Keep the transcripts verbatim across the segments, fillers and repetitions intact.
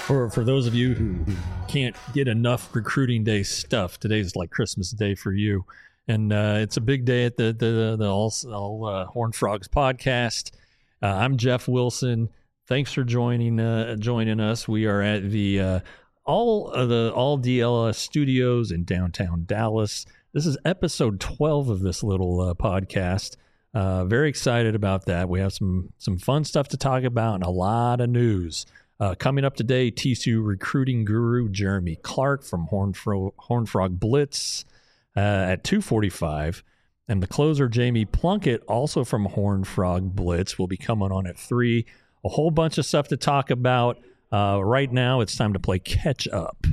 For for those of you who, who can't get enough recruiting day stuff, today's like Christmas Day for you, and uh, it's a big day at the the the All, all uh, Horned Frogs podcast. Uh, I'm Jeff Wilson. Thanks for joining uh, joining us. We are at the uh, all of the all D L S studios in downtown Dallas. This is episode twelve of this little uh, podcast. Uh, very excited about that. We have some some fun stuff to talk about and a lot of news. Uh, coming up today, T C U recruiting guru Jeremy Clark from Horned, Fro- Horned Frog Blitz uh, at two forty-five. And the closer, Jamie Plunkett, also from Horned Frog Blitz, will be coming on at three. A whole bunch of stuff to talk about. Uh, right now, it's time to play catch up.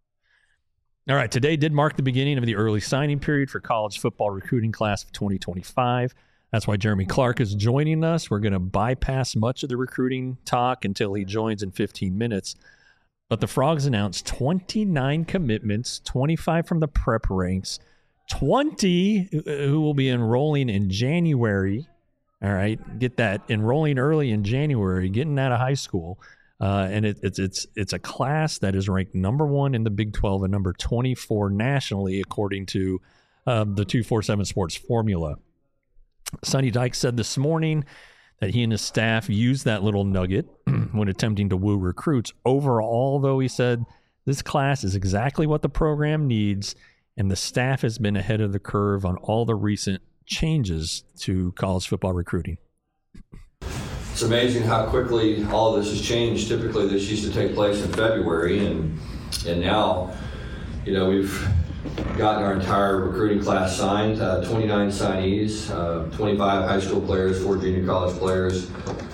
All right, today did mark the beginning of the early signing period for college football recruiting class of twenty twenty-five. That's why Jeremy Clark is joining us. We're going to bypass much of the recruiting talk until he joins in fifteen minutes. But the Frogs announced twenty-nine commitments, twenty-five from the prep ranks, twenty who will be enrolling in January. All right, get that, enrolling early in January, getting out of high school. Uh, and it, it's it's it's a class that is ranked number one in the Big twelve and number twenty-four nationally, according to uh, the two forty-seven Sports formula. Sonny Dykes said this morning that he and his staff used that little nugget when attempting to woo recruits. Overall, though, he said, this class is exactly what the program needs, and the staff has been ahead of the curve on all the recent changes to college football recruiting. It's amazing how quickly all of this has changed. Typically, this used to take place in February, and and now, you know, we've gotten our entire recruiting class signed, uh, twenty-nine signees, uh, twenty-five high school players, four junior college players,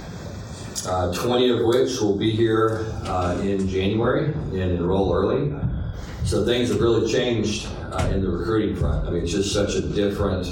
uh, twenty of which will be here uh, in January and enroll early. So things have really changed uh, in the recruiting front. I mean, it's just such a different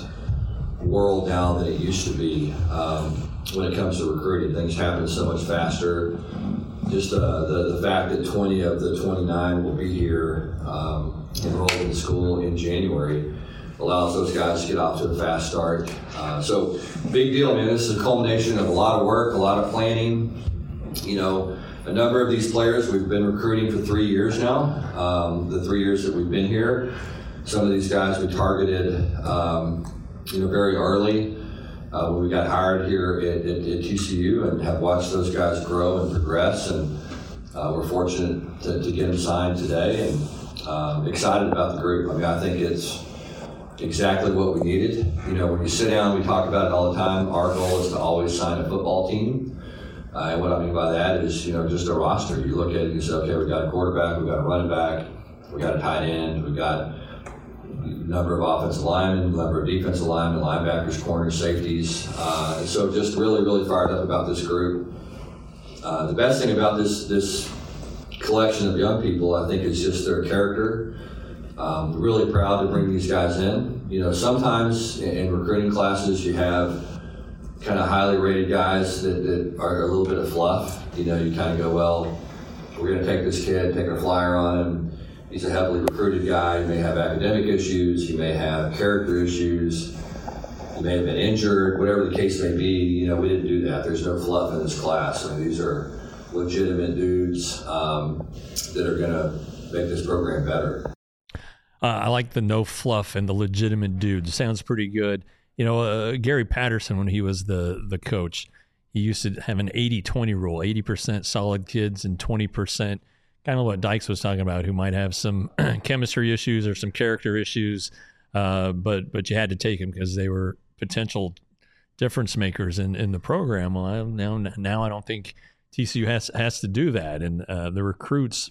world now than it used to be. Um, when it comes to recruiting, things happen so much faster. Just uh, the, the fact that twenty of the twenty-nine will be here um, enrolled in school in January allows those guys to get off to a fast start. Uh, so big deal, man. This is a culmination of a lot of work, a lot of planning. You know, a number of these players we've been recruiting for three years now. Um, the three years that we've been here, some of these guys we targeted, um, you know, very early. Uh, when we got hired here at, at, at T C U, and have watched those guys grow and progress, and uh, we're fortunate to, to get them signed today, and um, excited about the group. I mean, I think it's exactly what we needed. You know, when you sit down, we talk about it all the time. Our goal is to always sign a football team, uh, and what I mean by that is, you know, just a roster. You look at it and you say, okay, we got a quarterback, we got a running back, we got a tight end, we got number of offensive linemen, number of defensive linemen, linebackers, corners, safeties. Uh, so just really, really fired up about this group. Uh, the best thing about this this collection of young people, I think, is just their character. Um, really proud to bring these guys in. You know, sometimes in, in recruiting classes you have kind of highly rated guys that, that are a little bit of fluff. You know, you kind of go, well, we're going to take this kid, take a flyer on him. He's a heavily recruited guy. He may have academic issues. He may have character issues. He may have been injured. Whatever the case may be, you know, we didn't do that. There's no fluff in this class. I mean, these are legitimate dudes um, that are going to make this program better. Uh, I like the no fluff and the legitimate dudes. Sounds pretty good. You know, uh, Gary Patterson, when he was the the coach, he used to have an eighty twenty rule, eighty percent solid kids and twenty percent kind of what Dykes was talking about, who might have some chemistry issues or some character issues, uh, but but you had to take them because they were potential difference makers in, in the program. Well, I, now now I don't think T C U has has to do that. And uh, the recruits,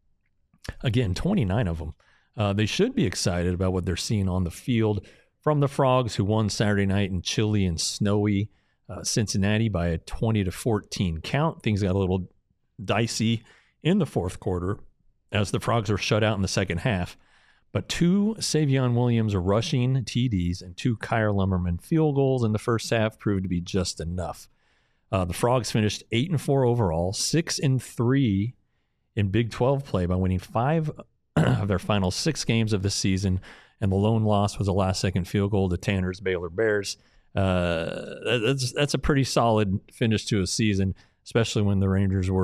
again, twenty-nine of them, uh, they should be excited about what they're seeing on the field from the Frogs, who won Saturday night in chilly and snowy uh, Cincinnati by a twenty to fourteen count. Things got a little dicey in the fourth quarter as the Frogs were shut out in the second half. But two Savion Williams rushing T Ds and two Kyer Lumberman field goals in the first half proved to be just enough. Uh, the Frogs finished eight and four overall, six and three in Big twelve play by winning five of their final six games of the season, and the lone loss was a last-second field goal to Tanner's Baylor Bears. Uh, that's that's a pretty solid finish to a season, especially when the Rangers were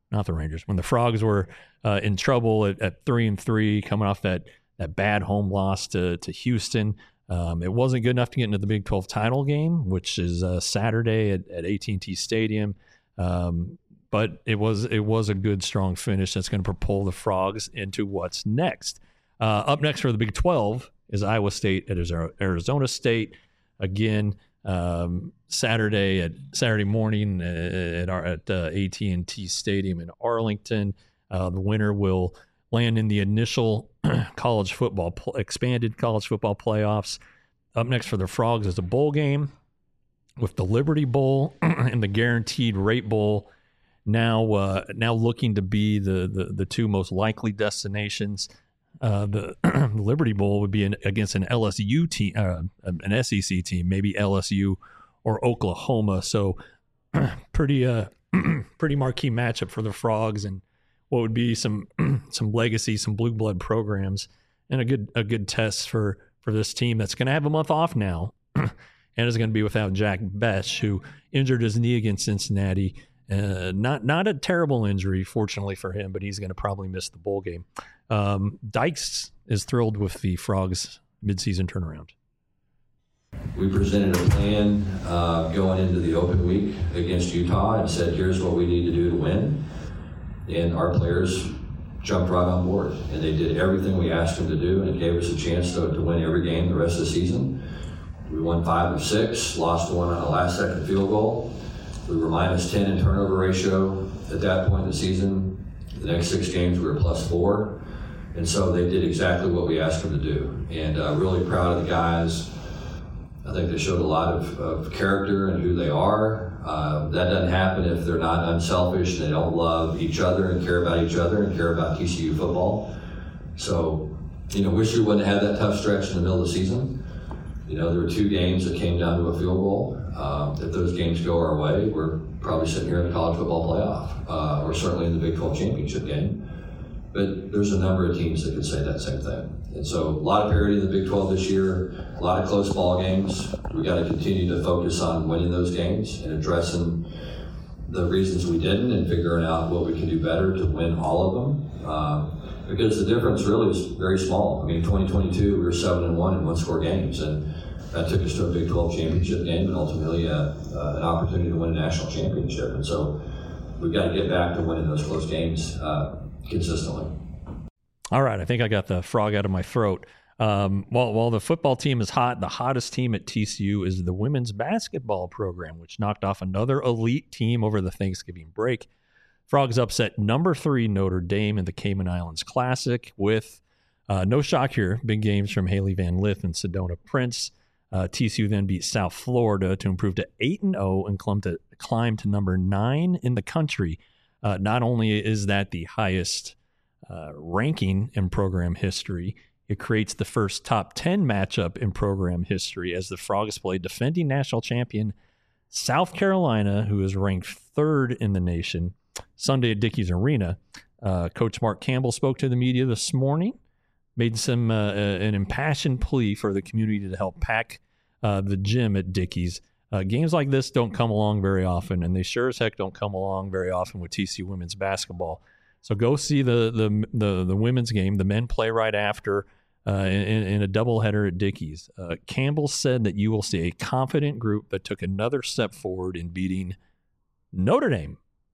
not the Rangers. When the Frogs were uh, in trouble at, at three and three, coming off that that bad home loss to to Houston, um, it wasn't good enough to get into the Big twelve title game, which is uh, Saturday at, at A T and T Stadium. Um, but it was it was a good, strong finish that's going to propel the Frogs into what's next. Uh, up next for the Big twelve is Iowa State at Arizona State. Again, um, Saturday at Saturday morning at our at uh, A T and T Stadium in Arlington. Uh, the winner will land in the initial college football expanded college football playoffs. Up next for the Frogs is a bowl game with the Liberty Bowl and the Guaranteed Rate Bowl. Now, uh, now looking to be the, the the two most likely destinations. Uh, the Liberty Bowl would be an, against an L S U team, uh, an S E C team, maybe L S U or Oklahoma. So, pretty uh, pretty marquee matchup for the Frogs, and what would be some some legacy, some blue blood programs, and a good a good test for for this team that's going to have a month off now, and is going to be without Jack Bech, who injured his knee against Cincinnati. Uh, not not a terrible injury, fortunately for him, but he's going to probably miss the bowl game. Um, Dykes is thrilled with the Frogs' midseason turnaround. We presented a plan uh, going into the open week against Utah and said, here's what we need to do to win. And our players jumped right on board. And they did everything we asked them to do, and it gave us a chance to, to win every game the rest of the season. We won five of six, lost one on a last-second field goal. We were minus ten in turnover ratio at that point in the season. The next six games we were plus four. And so they did exactly what we asked them to do. And uh, really proud of the guys. I think they showed a lot of, of character and who they are. Uh, that doesn't happen if they're not unselfish and they don't love each other and care about each other and care about T C U football. So, you know, wish we wouldn't have had that tough stretch in the middle of the season. You know, there were two games that came down to a field goal. Um, if those games go our way, we're probably sitting here in the college football playoff, uh, or certainly in the Big twelve championship game. But there's a number of teams that could say that same thing. And so a lot of parity in the Big twelve this year, a lot of close ball games. We got to continue to focus on winning those games and addressing the reasons we didn't and figuring out what we can do better to win all of them. Uh, because the difference really is very small. I mean, twenty twenty-two, we were seven and one in one-score games, and that took us to a Big twelve championship game and ultimately a, uh, an opportunity to win a national championship. And so we've got to get back to winning those close games uh, consistently. All right, I think I got the frog out of my throat. Um, while, while the football team is hot, the hottest team at T C U is the women's basketball program, which knocked off another elite team over the Thanksgiving break. Frogs upset number three Notre Dame in the Cayman Islands Classic with, uh, no shock here, big games from Haley Van Lith and Sedona Prince. Uh, T C U then beat South Florida to improve to eight and oh and climb to, climb to number nine in the country. Uh, not only is that the highest uh, ranking in program history, it creates the first top ten matchup in program history as the Frogs play defending national champion South Carolina, who is ranked third in the nation, Sunday at Dickies Arena. Uh, Coach Mark Campbell spoke to the media this morning, made some uh, an impassioned plea for the community to help pack uh, the gym at Dickies. Uh, games like this don't come along very often, and they sure as heck don't come along very often with T C U women's basketball. So go see the the the, the women's game. The men play right after uh, in, in a doubleheader at Dickies. Uh, Campbell said that you will see a confident group that took another step forward in beating Notre Dame.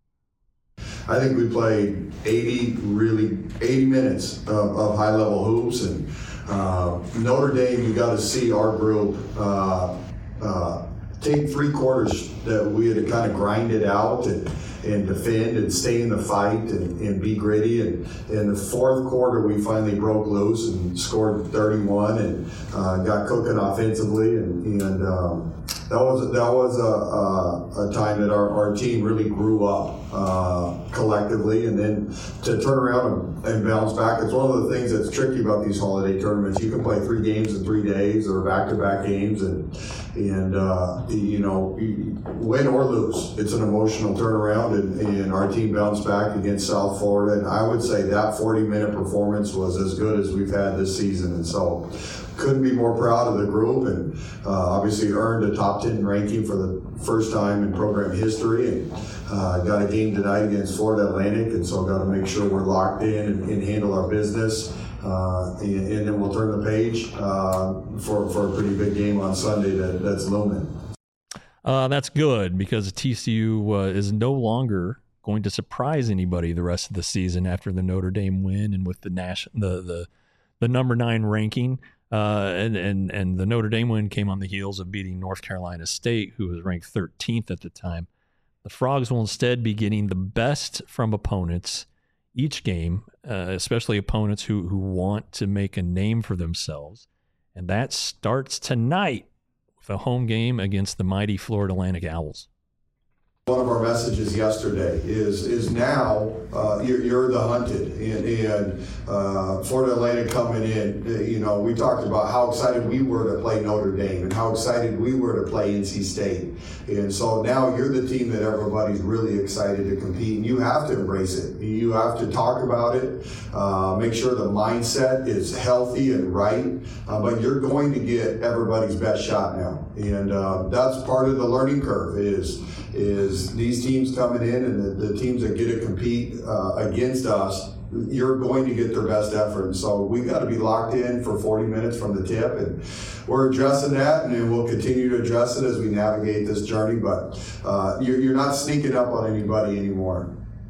I think we played eighty, really eighty minutes of, of high-level hoops, and uh, Notre Dame, you got to see our group uh, uh, take three quarters that we had to kind of grind it out and, and defend and stay in the fight and, and be gritty. And in the fourth quarter, we finally broke loose and scored thirty-one and uh, got cooking offensively, and, and um, that was that was a, a, a time that our, our team really grew up uh, collectively, and then to turn around and, and bounce back. It's one of the things that's tricky about these holiday tournaments. You can play three games in three days or back-to-back games, and and uh, you know, win or lose, it's an emotional turnaround, and, and our team bounced back against South Florida, and I would say that forty-minute performance was as good as we've had this season, and so couldn't be more proud of the group, and uh, obviously earned a top top ten ranking for the first time in program history, and uh, got a game tonight against Florida Atlantic, and so got to make sure we're locked in and, and handle our business. Uh, and, and then we'll turn the page uh, for, for a pretty big game on Sunday that, that's looming. Uh, that's good, because T C U uh, is no longer going to surprise anybody the rest of the season after the Notre Dame win and with the Nash, the the the number nine ranking. Uh, and, and, and the Notre Dame win came on the heels of beating North Carolina State, who was ranked thirteenth at the time. The Frogs will instead be getting the best from opponents each game, uh, especially opponents who, who want to make a name for themselves. And that starts tonight with a home game against the mighty Florida Atlantic Owls. One of our messages yesterday is is now uh, you're, you're the hunted, and, and uh, Florida Atlantic coming in. You know, we talked about how excited we were to play Notre Dame and how excited we were to play N C State, and so now you're the team that everybody's really excited to compete, and you have to embrace it. You have to talk about it, uh, make sure the mindset is healthy and right, uh, but you're going to get everybody's best shot now, and uh, that's part of the learning curve. Is is these teams coming in and the, the teams that get to compete uh, against us, you're going to get their best effort. And so we got to be locked in for forty minutes from the tip, and we're addressing that, and we'll continue to address it as we navigate this journey. But uh, you're, you're not sneaking up on anybody anymore.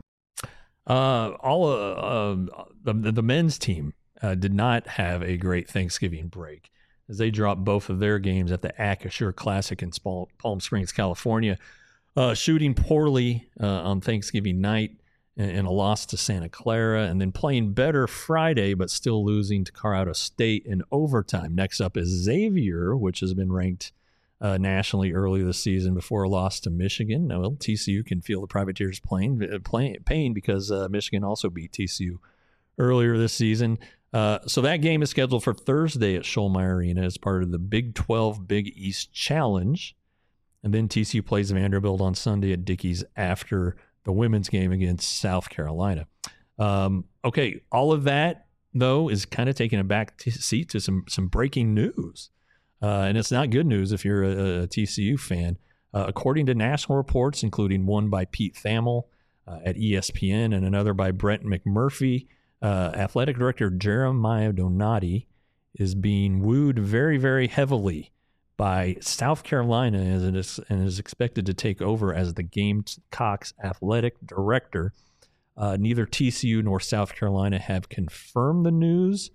Uh, all uh, uh, the, the men's team uh, did not have a great Thanksgiving break, as they dropped both of their games at the Acrisure Classic in Palm Springs, California. Uh, shooting poorly uh, on Thanksgiving night and, and a loss to Santa Clara, and then playing better Friday, but still losing to Colorado State in overtime. Next up is Xavier, which has been ranked uh, nationally early this season before a loss to Michigan. Now, well, T C U can feel the Privateers playing, playing pain because uh, Michigan also beat T C U earlier this season. Uh, so that game is scheduled for Thursday at Schollmeyer Arena as part of the Big twelve Big East Challenge. And then T C U plays Vanderbilt on Sunday at Dickies after the women's game against South Carolina. Um, okay, all of that, though, is kind of taking a back t- seat to some some breaking news. Uh, and it's not good news if you're a, a T C U fan. Uh, according to national reports, including one by Pete Thamel uh, at E S P N and another by Brent McMurphy, uh, athletic director Jeremiah Donati is being wooed very, very heavily by South Carolina as it is, and is expected to take over as the Gamecocks athletic director. Uh, neither T C U nor South Carolina have confirmed the news,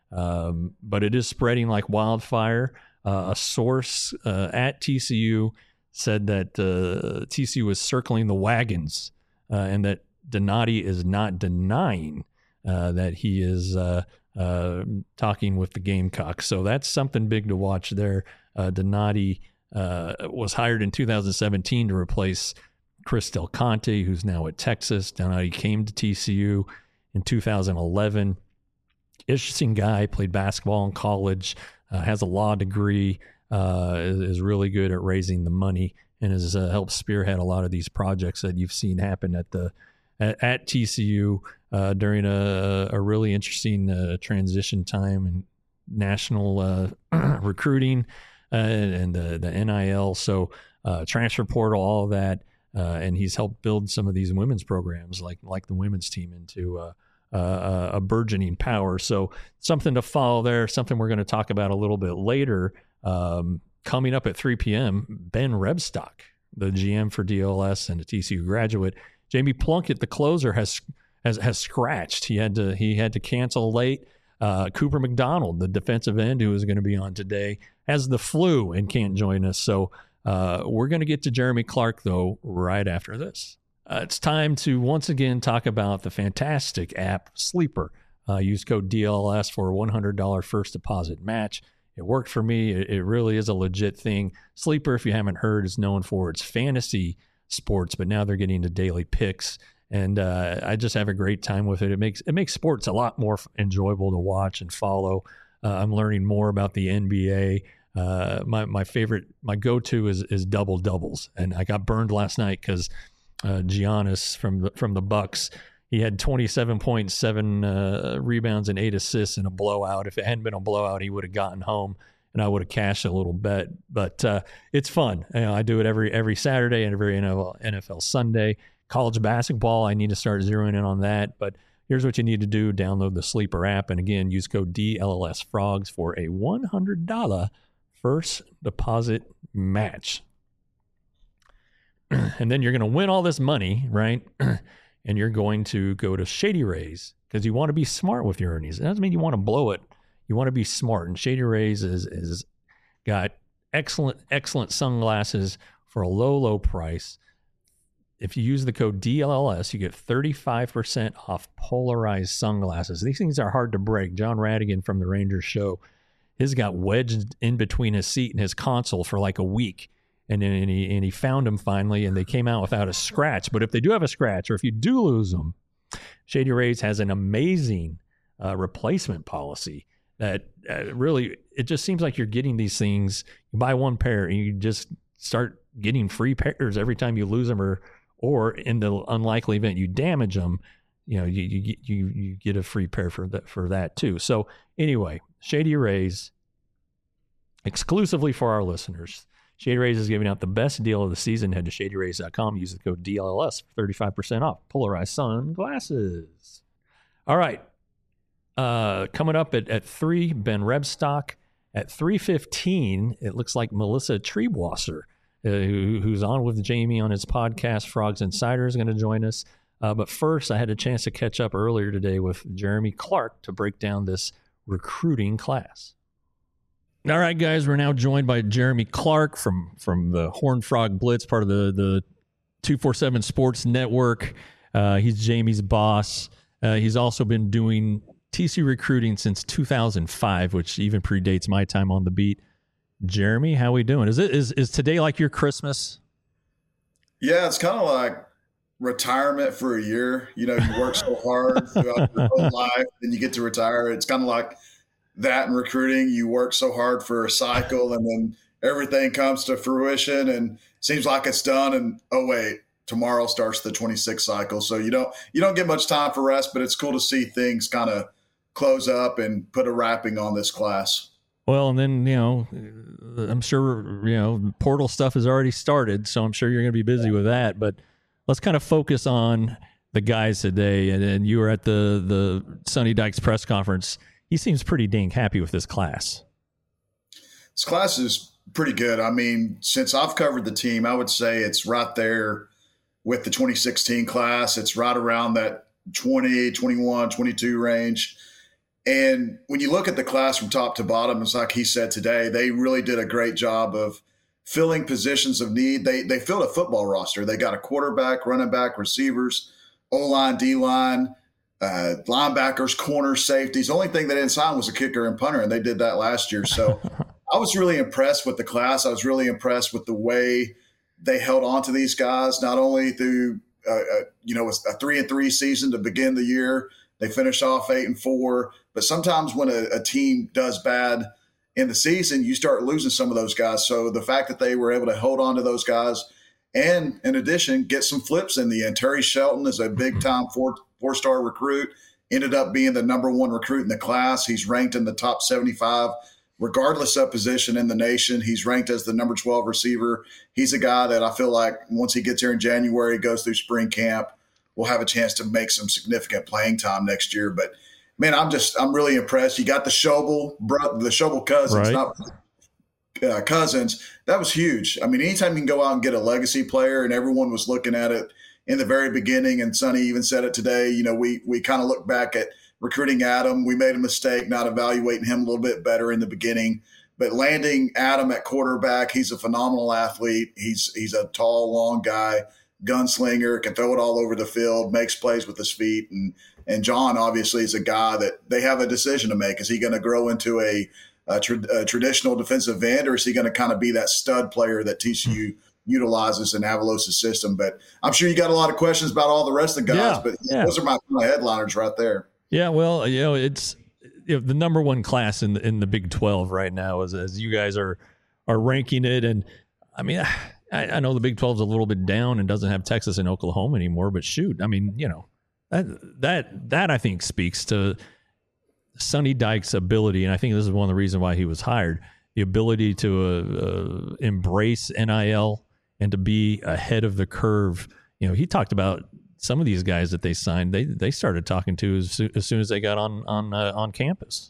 um, but it is spreading like wildfire. Uh, a source uh, at T C U said that uh, T C U is circling the wagons uh, and that Donati is not denying uh, that he is uh, uh, talking with the Gamecocks. So that's something big to watch there. Uh, Donati uh, was hired in two thousand seventeen to replace Chris Del Conte, who's now at Texas. Donati came to T C U in two thousand eleven. Interesting guy, played basketball in college, uh, has a law degree, uh, is, is really good at raising the money, and has uh, helped spearhead a lot of these projects that you've seen happen at the at, at T C U uh, during a, a really interesting uh, transition time and national uh, recruiting. Uh, and the, the N I L, so uh, transfer portal, all of that, uh, and he's helped build some of these women's programs, like like the women's team, into uh, uh, a burgeoning power. So something to follow there. Something we're going to talk about a little bit later. Um, coming up at three p.m., Ben Rebstock, the G M for D L S and a T C U graduate. Jamie Plunkett, the closer, has has has scratched. He had to he had to cancel late. Uh, Cooper McDonald, the defensive end who is going to be on today, has the flu and can't join us. So uh, we're going to get to Jeremy Clark, though, right after this. Uh, it's time to once again talk about the fantastic app Sleeper. Uh, use code D L S for a one hundred dollars first deposit match. It worked for me. It, it really is a legit thing. Sleeper, if you haven't heard, is known for its fantasy sports, but now they're getting into daily picks. And uh, I just have a great time with it. It makes it makes sports a lot more enjoyable to watch and follow. Uh, I'm learning more about the N B A. Uh, my my favorite, my go-to is is double doubles, and I got burned last night because uh, Giannis from the from the Bucks, he had twenty-seven point seven uh, rebounds and eight assists in a blowout. If it hadn't been a blowout, he would have gotten home. and I would have cashed a little bet. But uh, it's fun. You know, I do it every every Saturday and every N F L Sunday. College basketball, I need to start zeroing in on that. But here's what you need to do. Download the Sleeper app. And again, use code D L L S Frogs for a one hundred dollars first deposit match. And then you're going to win all this money, right? And you're going to go to Shady Rays because you want to be smart with your earnings. It doesn't mean you want to blow it. You want to be smart. And Shady Rays is, is got excellent, excellent sunglasses for a low, low price. If you use the code D L L S, you get thirty-five percent off polarized sunglasses. These things are hard to break. John Radigan from the Rangers show, his got wedged in between his seat and his console for like a week. And then and he, and he found them finally, and they came out without a scratch. But if they do have a scratch, or if you do lose them, Shady Rays has an amazing uh, replacement policy that uh, really, it just seems like you're getting these things. You buy one pair, and you just start getting free pairs every time you lose them, or or in the unlikely event you damage them, you know, you you you, you get a free pair for that for that too. So anyway, Shady Rays, exclusively for our listeners. Shady Rays is giving out the best deal of the season. Head to shady rays dot com. Use the code D L L S for thirty-five percent off polarized sunglasses. All right. Uh, coming up at, at three, Ben Rebstock. At three fifteen, it looks like Melissa Triebwasser, uh, who, who's on with Jamie on his podcast, Frogs Insider, is going to join us. Uh, but first, I had a chance to catch up earlier today with Jeremy Clark to break down this recruiting class. All right, guys, we're now joined by Jeremy Clark from, from the Horned Frog Blitz, part of the, the two forty-seven Sports Network. Uh, he's Jamie's boss. Uh, he's also been doing T C U recruiting since two thousand five, which even predates my time on the beat. Jeremy, how we doing? Is it is is today like your Christmas? Yeah, it's kind of like retirement for a year. You know, you work so hard throughout your whole life, and you get to retire. It's kind of like that in recruiting. You work so hard for a cycle, and then everything comes to fruition and seems like it's done. And oh wait, tomorrow starts the twenty-six cycle. So you don't you don't get much time for rest, but it's cool to see things kind of close up and put a wrapping on this class. Well, and then, you know, I'm sure, you know, portal stuff has already started, so I'm sure you're going to be busy with that. But let's kind of focus on the guys today. And, and you were at the, the Sonny Dykes press conference. He seems pretty dang happy with this class. This class is pretty good. I mean, since I've covered the team, I would say it's right there with the twenty sixteen class. It's right around that twenty, twenty-one, twenty-two range. And when you look at the class from top to bottom, it's like he said today, they really did a great job of filling positions of need. They they filled a football roster. They got a quarterback, running back, receivers, O-line, D-line, uh, linebackers, corners, safeties. The only thing they didn't sign was a kicker and punter, and they did that last year. So I was really impressed with the class. I was really impressed with the way they held on to these guys, not only through uh, uh, you know a three and three season to begin the year. They finished off eight and four. But sometimes when a, a team does bad in the season, you start losing some of those guys. So the fact that they were able to hold on to those guys and, in addition, get some flips in the end. Terry Shelton is a big-time four, four-star recruit, ended up being the number one recruit in the class. He's ranked in the top seventy-five, regardless of position in the nation. He's ranked as the number twelve receiver. He's a guy that I feel like once he gets here in January, goes through spring camp, we'll have a chance to make some significant playing time next year. But man, I'm just I'm really impressed. You got the Schobel, bro, the Schobel cousins, right. not uh, cousins. That was huge. I mean, anytime you can go out and get a legacy player, and everyone was looking at it in the very beginning, and Sonny even said it today. You know, we we kind of look back at recruiting Adam. We made a mistake not evaluating him a little bit better in the beginning. But landing Adam at quarterback, he's a phenomenal athlete. He's he's a tall, long guy, gunslinger, can throw it all over the field, makes plays with his feet. And and John obviously is a guy that they have a decision to make. Is he going to grow into a, a, tra- a traditional defensive end, or is he going to kind of be that stud player that T C U utilizes in Avalos' system? But I'm sure you got a lot of questions about all the rest of the guys, yeah, but yeah. those are my, my headliners right there. Yeah, well, you know, it's you know, the number one class in the, in the Big twelve right now, as as you guys are are ranking it. And I mean, I, I know the Big twelve is a little bit down and doesn't have Texas and Oklahoma anymore, but shoot, I mean, you know, that that that I think speaks to Sonny Dykes' ability, and I think this is one of the reasons why he was hired, the ability to uh, uh, embrace N I L and to be ahead of the curve. You know, he talked about some of these guys that they signed. They they started talking to as, as soon as they got on on uh, on campus.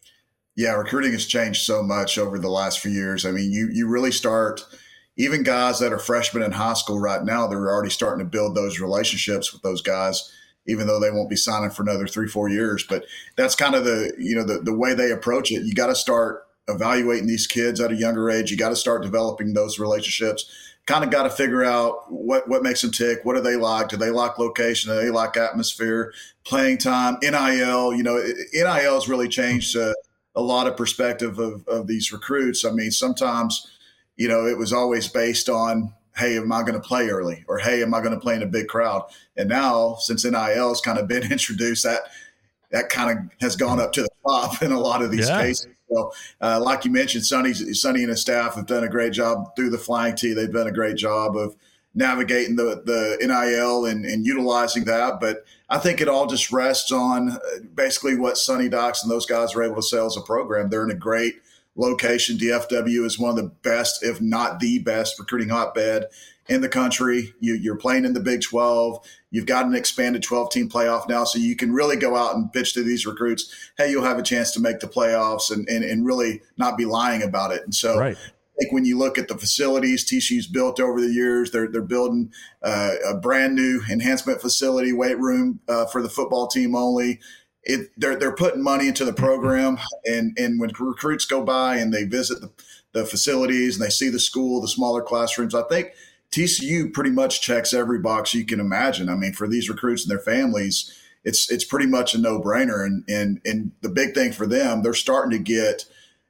Yeah, recruiting has changed so much over the last few years. I mean, you you really start, even guys that are freshmen in high school right now, they're already starting to build those relationships with those guys, even though they won't be signing for another three, four years. But that's kind of the, you know, the, the way they approach it. You got to start evaluating these kids at a younger age. You got to start developing those relationships. Kind of got to figure out what, what makes them tick. What do they like? Do they like location? Do they like atmosphere, playing time, N I L? You know, N I L has really changed uh, a lot of perspective of, of these recruits. I mean, sometimes, you know, it was always based on, hey, am I going to play early? Or, hey, am I going to play in a big crowd? And now, since N I L has kind of been introduced, that that kind of has gone up to the top in a lot of these yeah. cases. So, uh, like you mentioned, Sonny, Sonny and his staff have done a great job through the flying T. They've done a great job of navigating the, the N I L and, and utilizing that. But I think it all just rests on basically what Sonny Dykes and those guys are able to sell as a program. They're in a great location. D F W is one of the best, if not the best, recruiting hotbed in the country. You, you're playing in the Big twelve. You've got an expanded twelve-team playoff now, so you can really go out and pitch to these recruits, hey, you'll have a chance to make the playoffs and, and, and really not be lying about it. And so right. I think when you look at the facilities T C U's built over the years, they're, they're building uh, a brand new enhancement facility, weight room uh, for the football team only. It, they're they're putting money into the program, and, and when recruits go by and they visit the, the facilities and they see the school, the smaller classrooms, I think T C U pretty much checks every box you can imagine. I mean, for these recruits and their families, it's it's pretty much a no-brainer. And and and the big thing for them, they're starting to get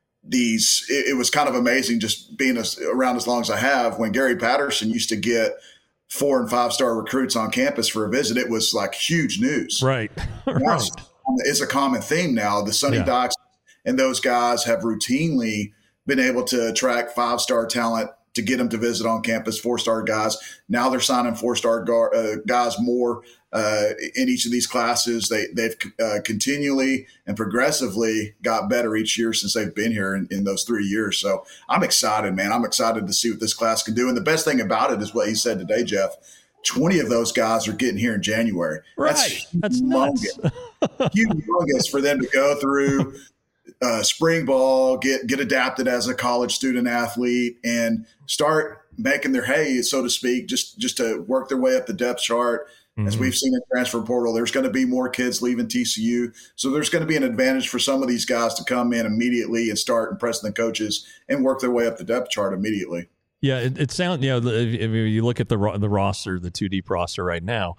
these. It, it was kind of amazing just being as, around as long as I have. When Gary Patterson used to get four and five star recruits on campus for a visit, it was like huge news. Right, right. It's a common theme now. The Sonny yeah. Dykes and those guys have routinely been able to attract five-star talent to get them to visit on campus, four-star guys. Now they're signing four-star gar- uh, guys more uh, in each of these classes. They, they've uh, continually and progressively got better each year since they've been here in, in those three years. So I'm excited, man. I'm excited to see what this class can do. And the best thing about it is what he said today, Jeff. twenty of those guys are getting here in January. Right. That's, That's nuts. Humongous for them to go through uh, spring ball, get get adapted as a college student athlete, and start making their hay, so to speak, just, just to work their way up the depth chart. Mm-hmm. As we've seen in transfer portal, there's going to be more kids leaving T C U. So there's going to be an advantage for some of these guys to come in immediately and start impressing the coaches and work their way up the depth chart immediately. Yeah, it, it sounds, you know, if, if you look at the the roster, the two deep roster right now,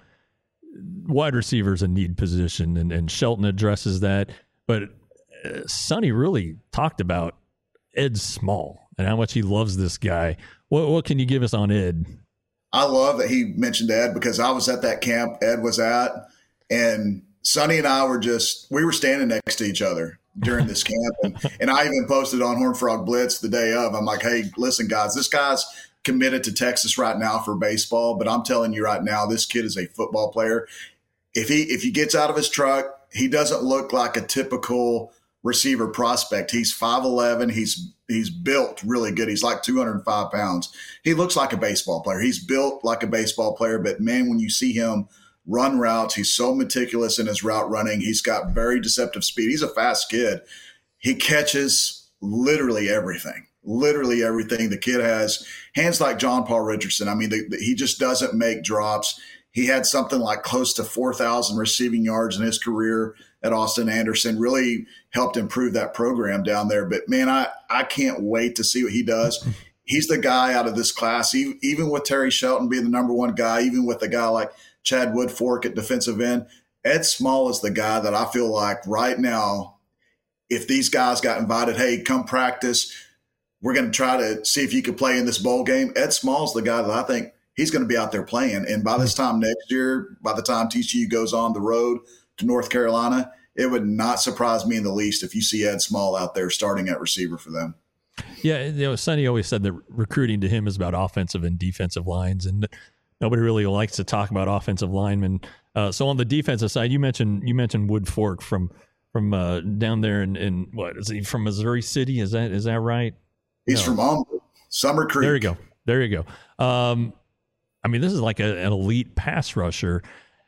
wide receiver is a need position, and, and Shelton addresses that. But uh, Sonny really talked about Ed Small and how much he loves this guy. What, what can you give us on Ed? I love that he mentioned Ed because I was at that camp Ed was at, and Sonny and I were just, we were standing next to each other during this camp. And, and I even posted on Horned Frog Blitz the day of. I'm like, hey, listen, guys, this guy's committed to Texas right now for baseball, but I'm telling you right now, this kid is a football player. If he if he gets out of his truck, he doesn't look like a typical receiver prospect. He's five eleven. He's he's built really good. He's like two hundred five pounds. He looks like a baseball player. He's built like a baseball player, but man, when you see him run routes, he's so meticulous in his route running. He's got very deceptive speed. He's a fast kid. He catches literally everything, literally everything. The kid has hands like John Paul Richardson. I mean, the, the, he just doesn't make drops. He had something like close to four thousand receiving yards in his career at Austin Anderson, really helped improve that program down there. But, man, I, I can't wait to see what he does. He's the guy out of this class, even, even with Terry Shelton being the number one guy, even with a guy like Chad Woodfork at defensive end. Ed Small is the guy that I feel like right now, if these guys got invited, hey, come practice, we're going to try to see if you could play in this bowl game. Ed Small's the guy that I think he's going to be out there playing. And by this time next year, by the time T C U goes on the road to North Carolina, it would not surprise me in the least if you see Ed Small out there starting at receiver for them. Yeah, you know, Sonny always said that recruiting to him is about offensive and defensive lines, and nobody really likes to talk about offensive linemen. Uh, so on the defensive side, you mentioned you mentioned Woodfork from from uh, down there in, in what is he from Missouri City? Is that is that right? He's no. from Humble, Summer Creek. There you go. There you go. Um, I mean, this is like a, an elite pass rusher.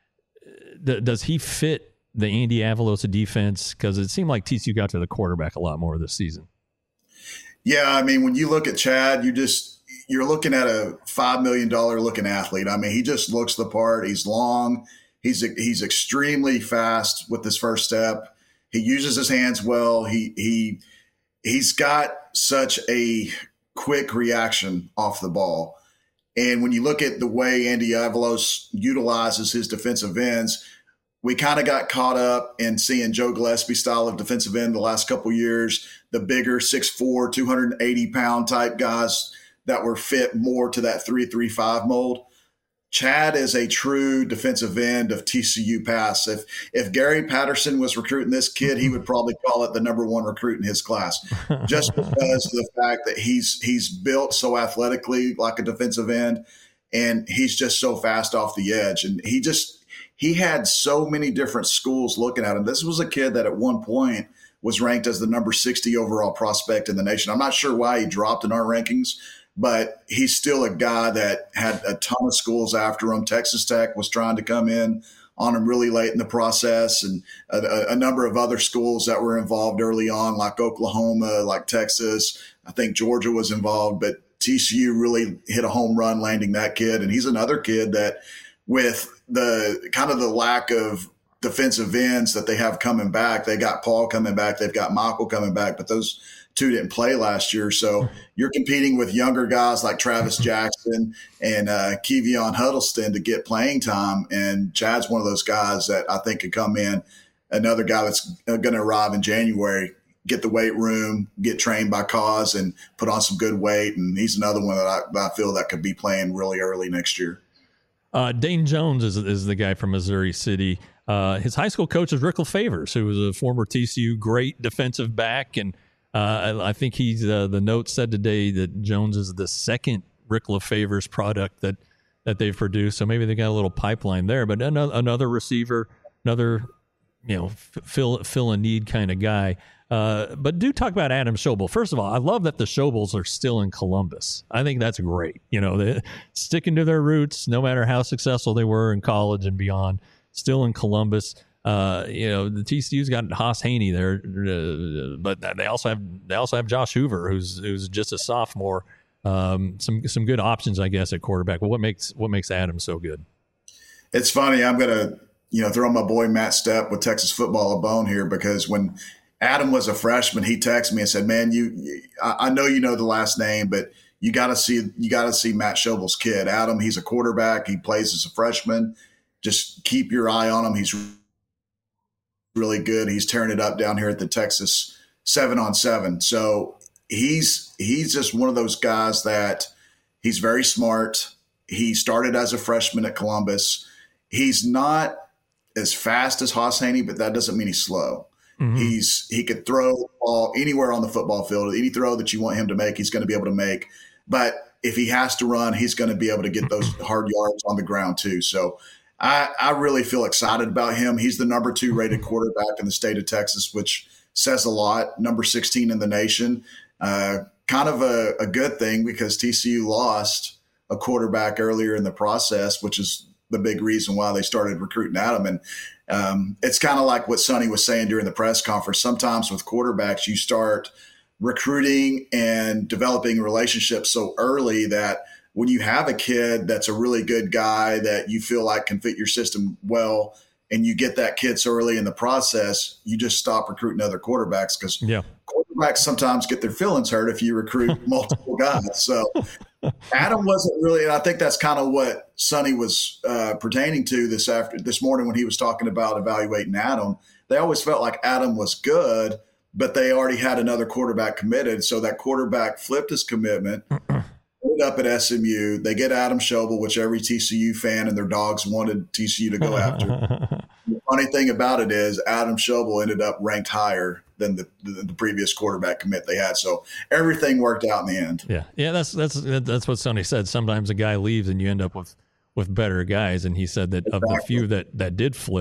D- does he fit the Andy Avalos defense? Because it seemed like T C U got to the quarterback a lot more this season. Yeah, I mean, when you look at Chad, you just you're looking at a five million dollar looking athlete. I mean, he just looks the part. He's long. He's he's extremely fast with his first step. He uses his hands well. He he he's got such a quick reaction off the ball. And when you look at the way Andy Avalos utilizes his defensive ends, we kind of got caught up in seeing Joe Gillespie style of defensive end the last couple of years, the bigger six foot four, two hundred eighty pound type guys that were fit more to that three three five mold. Chad is a true defensive end of T C U pass. If if Gary Patterson was recruiting this kid, he would probably call it the number one recruit in his class, just because of the fact that he's he's built so athletically like a defensive end, and he's just so fast off the edge. And he just he had so many different schools looking at him. This was a kid that at one point was ranked as the number sixty overall prospect in the nation. I'm not sure why he dropped in our rankings, but he's still a guy that had a ton of schools after him. Texas Tech was trying to come in on him really late in the process, and a, a number of other schools that were involved early on, like Oklahoma, like Texas. I think Georgia was involved, but T C U really hit a home run landing that kid. And he's another kid that, with the kind of the lack of defensive ends that they have coming back, they got Paul coming back, they've got Michael coming back, but those two didn't play last year. So you're competing with younger guys like Travis Jackson and uh, Kevion Huddleston to get playing time. And Chad's one of those guys that I think could come in, another guy that's going to arrive in January, get the weight room, get trained by Cause, and put on some good weight. And he's another one that I, that I feel that could be playing really early next year. Uh, Dane Jones is, is the guy from Missouri City. Uh, his high school coach is Rickle Favors, who was a former T C U great defensive back, and Uh, I, I think he's uh, the note said today that Jones is the second Rickle Favors product that, that they've produced. So maybe they got a little pipeline there. But another, another receiver, another you know f- fill fill a need kind of guy. Uh, but do talk about Adam Schobel. First of all, I love that the Schobels are still in Columbus. I think that's great. You know, they're sticking to their roots, no matter how successful they were in college and beyond. Still in Columbus. Uh, you know, the T C U's got Haas Haney there, uh, but they also have they also have Josh Hoover, who's who's just a sophomore. Um, some some good options, I guess, at quarterback. But what makes what makes Adam so good? It's funny. I'm gonna you know throw my boy Matt Stepp with Texas Football a bone here, because when Adam was a freshman, he texted me and said, "Man, you I, I know you know the last name, but you got to see you got to see Matt Schobel's kid, Adam. He's a quarterback. He plays as a freshman. Just keep your eye on him. He's really good. He's tearing it up down here at the Texas seven on seven. So he's he's just one of those guys that he's very smart. He started as a freshman at Columbus. He's not as fast as Haas Haney, but that doesn't mean he's slow. Mm-hmm. He's he could throw the ball anywhere on the football field. Any throw that you want him to make, he's going to be able to make. But if he has to run, he's going to be able to get those hard yards on the ground too. So I, I really feel excited about him. He's the number two rated quarterback in the state of Texas, which says a lot. Number sixteen in the nation. Uh, kind of a, a good thing, because T C U lost a quarterback earlier in the process, which is the big reason why they started recruiting Adam. And um, it's kind of like what Sonny was saying during the press conference. Sometimes with quarterbacks, you start recruiting and developing relationships so early that when you have a kid that's a really good guy that you feel like can fit your system well, and you get that kid so early in the process, you just stop recruiting other quarterbacks, because yeah. quarterbacks sometimes get their feelings hurt if you recruit multiple guys. So Adam wasn't really, and I think that's kind of what Sonny was uh, pertaining to this after this morning when he was talking about evaluating Adam. They always felt like Adam was good, but they already had another quarterback committed. So that quarterback flipped his commitment. Up at S M U, they get Adam Schobel, which every T C U fan and their dogs wanted T C U to go after. The funny thing about it is Adam Schobel ended up ranked higher than the, the, the previous quarterback commit they had. So everything worked out in the end. Yeah, yeah, that's that's that's what Sonny said. Sometimes a guy leaves and you end up with with better guys. And he said that exactly. Of the few that that did flip,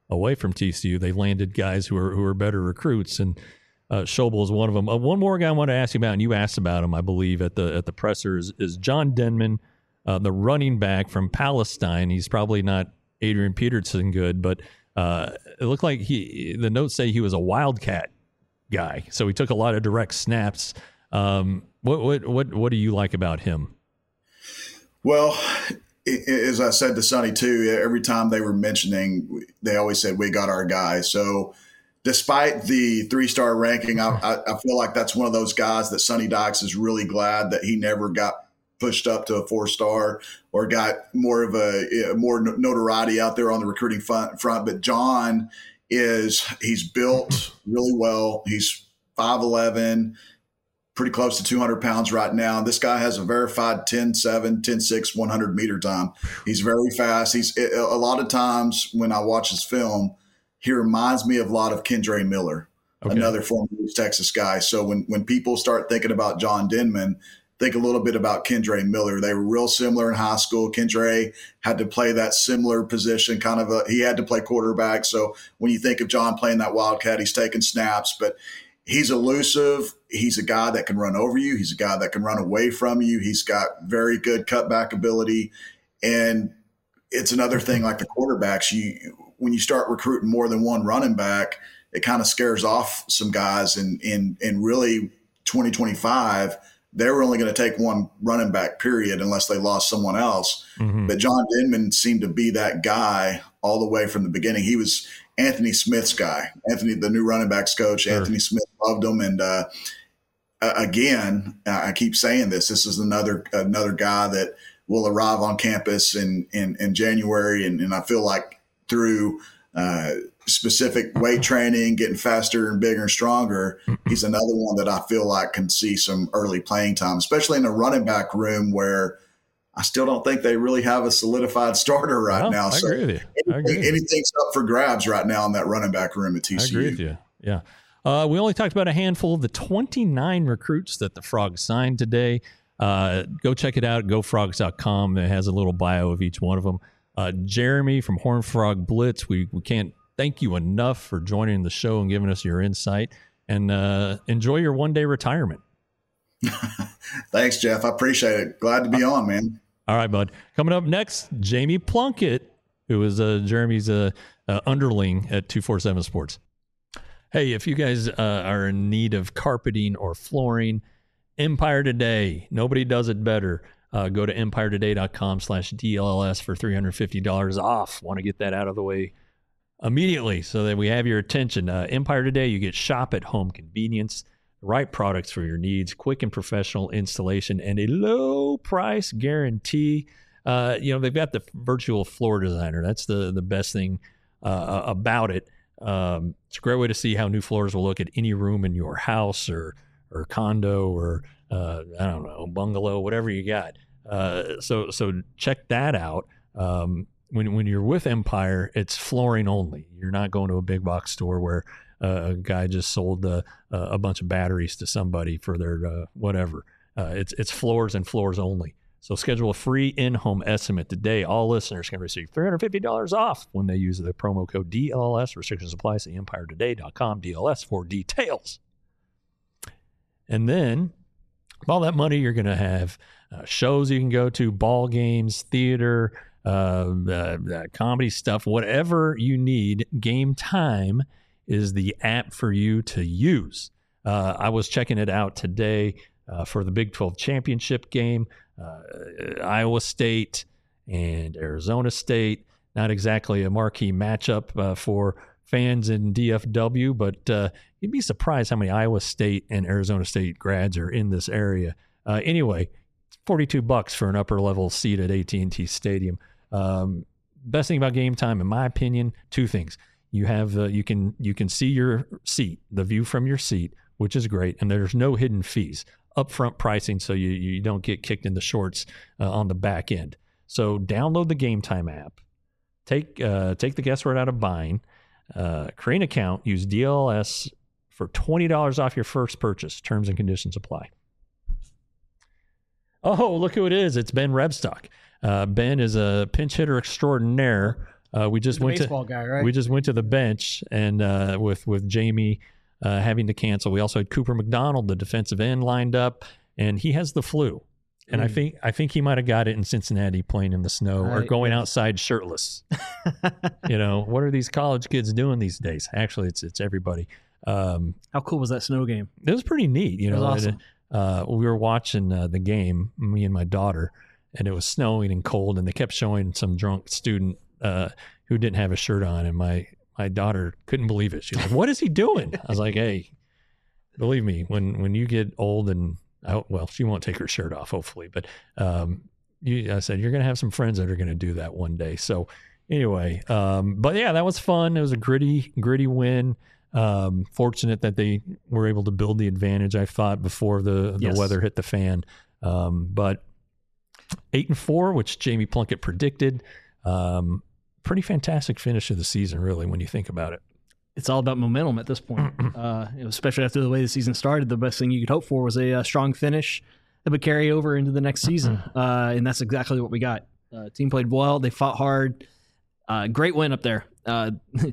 away from T C U. They landed guys who are who are better recruits, and uh, Schobel is one of them. Uh, one more guy I want to ask you about, and you asked about him, I believe, at the at the presser is, is John Denman, uh, the running back from Palestine. He's probably not Adrian Peterson good, but uh, it looked like he. The notes say he was a Wildcat guy, so he took a lot of direct snaps. Um, what what what what do you like about him? Well, as I said to Sonny too, every time they were mentioning, they always said, we got our guy. So despite the three-star ranking, I, I feel like that's one of those guys that Sonny Dykes is really glad that he never got pushed up to a four-star or got more of a more notoriety out there on the recruiting front. But John is, he's built really well. He's five eleven, pretty close to two hundred pounds right now. This guy has a verified ten seven, ten six, one hundred meter time. He's very fast. He's a lot of times when I watch his film, he reminds me of a lot of Kendre Miller, okay. Another former Texas guy. So when, when people start thinking about John Denman, think a little bit about Kendre Miller. They were real similar in high school. Kendre had to play that similar position, kind of a, he had to play quarterback. So when you think of John playing that Wildcat, he's taking snaps, but he's elusive. He's a guy that can run over you. He's a guy that can run away from you. He's got very good cutback ability. And it's another thing like the quarterbacks, you when you start recruiting more than one running back, it kind of scares off some guys. And in in really twenty twenty-five, they were only going to take one running back, period, unless they lost someone else. Mm-hmm. But John Denman seemed to be that guy all the way from the beginning. He was Anthony Smith's guy. Anthony, the new running backs coach, sure. Anthony Smith loved him. And uh, again, I keep saying this, this is another another guy that will arrive on campus in, in, in January. And, and I feel like through uh, specific weight training, getting faster and bigger and stronger, he's another one that I feel like can see some early playing time, especially in a running back room where I still don't think they really have a solidified starter right well, now. I so agree with you. I anything, anything's up for grabs right now in that running back room at T C U. I agree with you. Yeah. Uh, we only talked about a handful of the twenty-nine recruits that the Frogs signed today. Uh, go check it out, go frogs dot com. It has a little bio of each one of them. Uh, Jeremy from Horned Frog Blitz, we, we can't thank you enough for joining the show and giving us your insight. And uh, enjoy your one-day retirement. Thanks, Jeff. I appreciate it. Glad to be on, man. All right, bud. Coming up next, Jamie Plunkett, who is uh, Jeremy's uh, uh, underling at two forty-seven Sports. Hey, if you guys uh, are in need of carpeting or flooring, Empire Today. Nobody does it better. Uh, go to empire today dot com slash D L L S for three hundred fifty dollars off. Want to get that out of the way immediately so that we have your attention. Uh, Empire Today, you get shop at home convenience, the right products for your needs, quick and professional installation, and a low price guarantee. Uh, you know, they've got the virtual floor designer. That's the, the best thing uh, about it. Um, it's a great way to see how new floors will look at any room in your house or or condo or uh, I don't know, bungalow, whatever you got. Uh, so so check that out. Um, when when you're with Empire, it's flooring only. You're not going to a big box store where uh, a guy just sold uh, a bunch of batteries to somebody for their uh, whatever. Uh, it's it's floors and floors only. So schedule a free in-home estimate today. All listeners can receive three hundred fifty dollars off when they use the promo code D L L S. Restrictions apply. See empire today dot com D L S for details. And then, with all that money, you're going to have uh, shows you can go to, ball games, theater, uh, uh, uh, comedy stuff, whatever you need. Game Time is the app for you to use. Uh, I was checking it out today uh, for the Big twelve championship game. Uh, Iowa State and Arizona State. Not exactly a marquee matchup uh, for fans in D F W, but uh, you'd be surprised how many Iowa State and Arizona State grads are in this area. Uh, anyway, it's forty-two bucks for an upper level seat at A T and T Stadium. Um, best thing about Game Time, in my opinion, two things. You have uh, you can you can see your seat, the view from your seat, which is great, and there's no hidden fees. Upfront pricing, so you you don't get kicked in the shorts uh, on the back end. So download the Game Time app, take uh, take the guesswork out of buying, uh, create an account, use D L L S for twenty dollars off your first purchase. Terms and conditions apply. Oh, look who it is! It's Ben Rebstock. Uh, Ben is a pinch hitter extraordinaire Uh, we just The went baseball to guy, right? we just went to the bench, and uh, with with Jamie uh, having to cancel, we also had Cooper McDonald, the defensive end, lined up, and he has the flu. And Mm. I think I think he might have got it in Cincinnati playing in the snow or Right, going yeah. outside shirtless. You know, what are these college kids doing these days? Actually, it's it's everybody. Um, How cool was that snow game? it was pretty neat. You It know, was awesome. uh, we were watching uh, the game, me and my daughter, and it was snowing and cold, and they kept showing some drunk student uh, who didn't have a shirt on, and my my daughter couldn't believe it. She was like, "What is he doing?" I was like, "Hey, believe me, when when you get old and I, well, she won't take her shirt off, hopefully, but um, you, I said you're going to have some friends that are going to do that one day." So anyway, um, but yeah, that was fun. It was a gritty, gritty win. Um, fortunate that they were able to build the advantage, I thought, before the, the Yes. weather hit the fan. Um, but eight and four, which Jamie Plunkett predicted, um, pretty fantastic finish of the season, really, when you think about it. It's all about momentum at this point, uh, especially after the way the season started. The best thing you could hope for was a, uh strong finish that would carry over into the next season, uh, and that's exactly what we got. Uh, team played well. They fought hard. Uh, great win up there. Uh,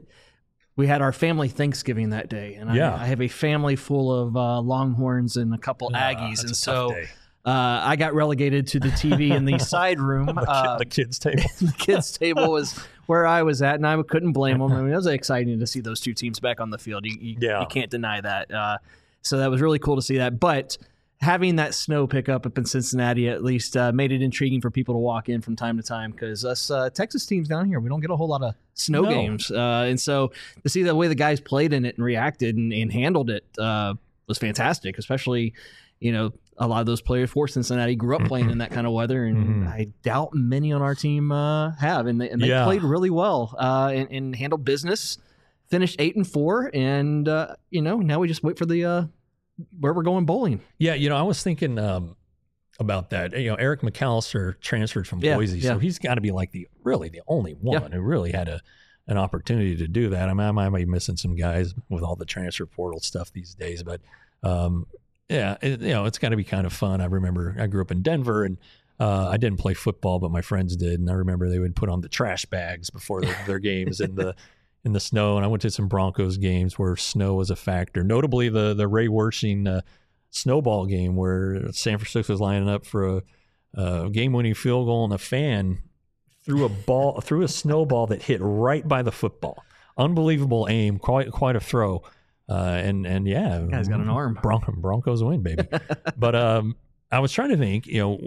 we had our family Thanksgiving that day, and Yeah. I, I have a family full of uh, Longhorns and a couple Ah, Aggies, that's and a so tough day. uh, I got relegated to the T V in the side room. the, Uh, the kids' table. the kids' table was where I was at, and I couldn't blame them. I mean, it was exciting to see those two teams back on the field. You, you, Yeah. you can't deny that. Uh, so that was really cool to see that. But having that snow pick up up in Cincinnati at least uh, made it intriguing for people to walk in from time to time, because us uh, Texas teams down here, we don't get a whole lot of snow No. games. Uh, and so to see the way the guys played in it and reacted and, and handled it uh, was fantastic, especially, you know, a lot of those players for Cincinnati grew up playing in that kind of weather, and Mhm. I doubt many on our team uh, have, and they, and they Yeah. played really well uh, and, and handled business. Finished eight and four, and uh, you know, now we just wait for the uh, where we're going bowling. Yeah, you know, I was thinking um, about that. You know, Eric McAllister transferred from Yeah, Boise, yeah. so he's got to be like the really the only one Yeah. who really had a an opportunity to do that. I mean, I might be missing some guys with all the transfer portal stuff these days, but um, yeah, it, you know, it's got to be kind of fun. I remember I grew up in Denver, and uh, I didn't play football, but my friends did, and I remember they would put on the trash bags before their, their games in the in the snow. And I went to some Broncos games where snow was a factor. Notably, the the Ray Wersching uh, snowball game where San Francisco was lining up for a, a game-winning field goal, and a fan threw a ball threw a snowball that hit right by the football. Unbelievable aim, quite quite a throw. Uh, and and yeah, That guy's got an arm. Bron- Broncos win, baby. But um, I was trying to think, you know,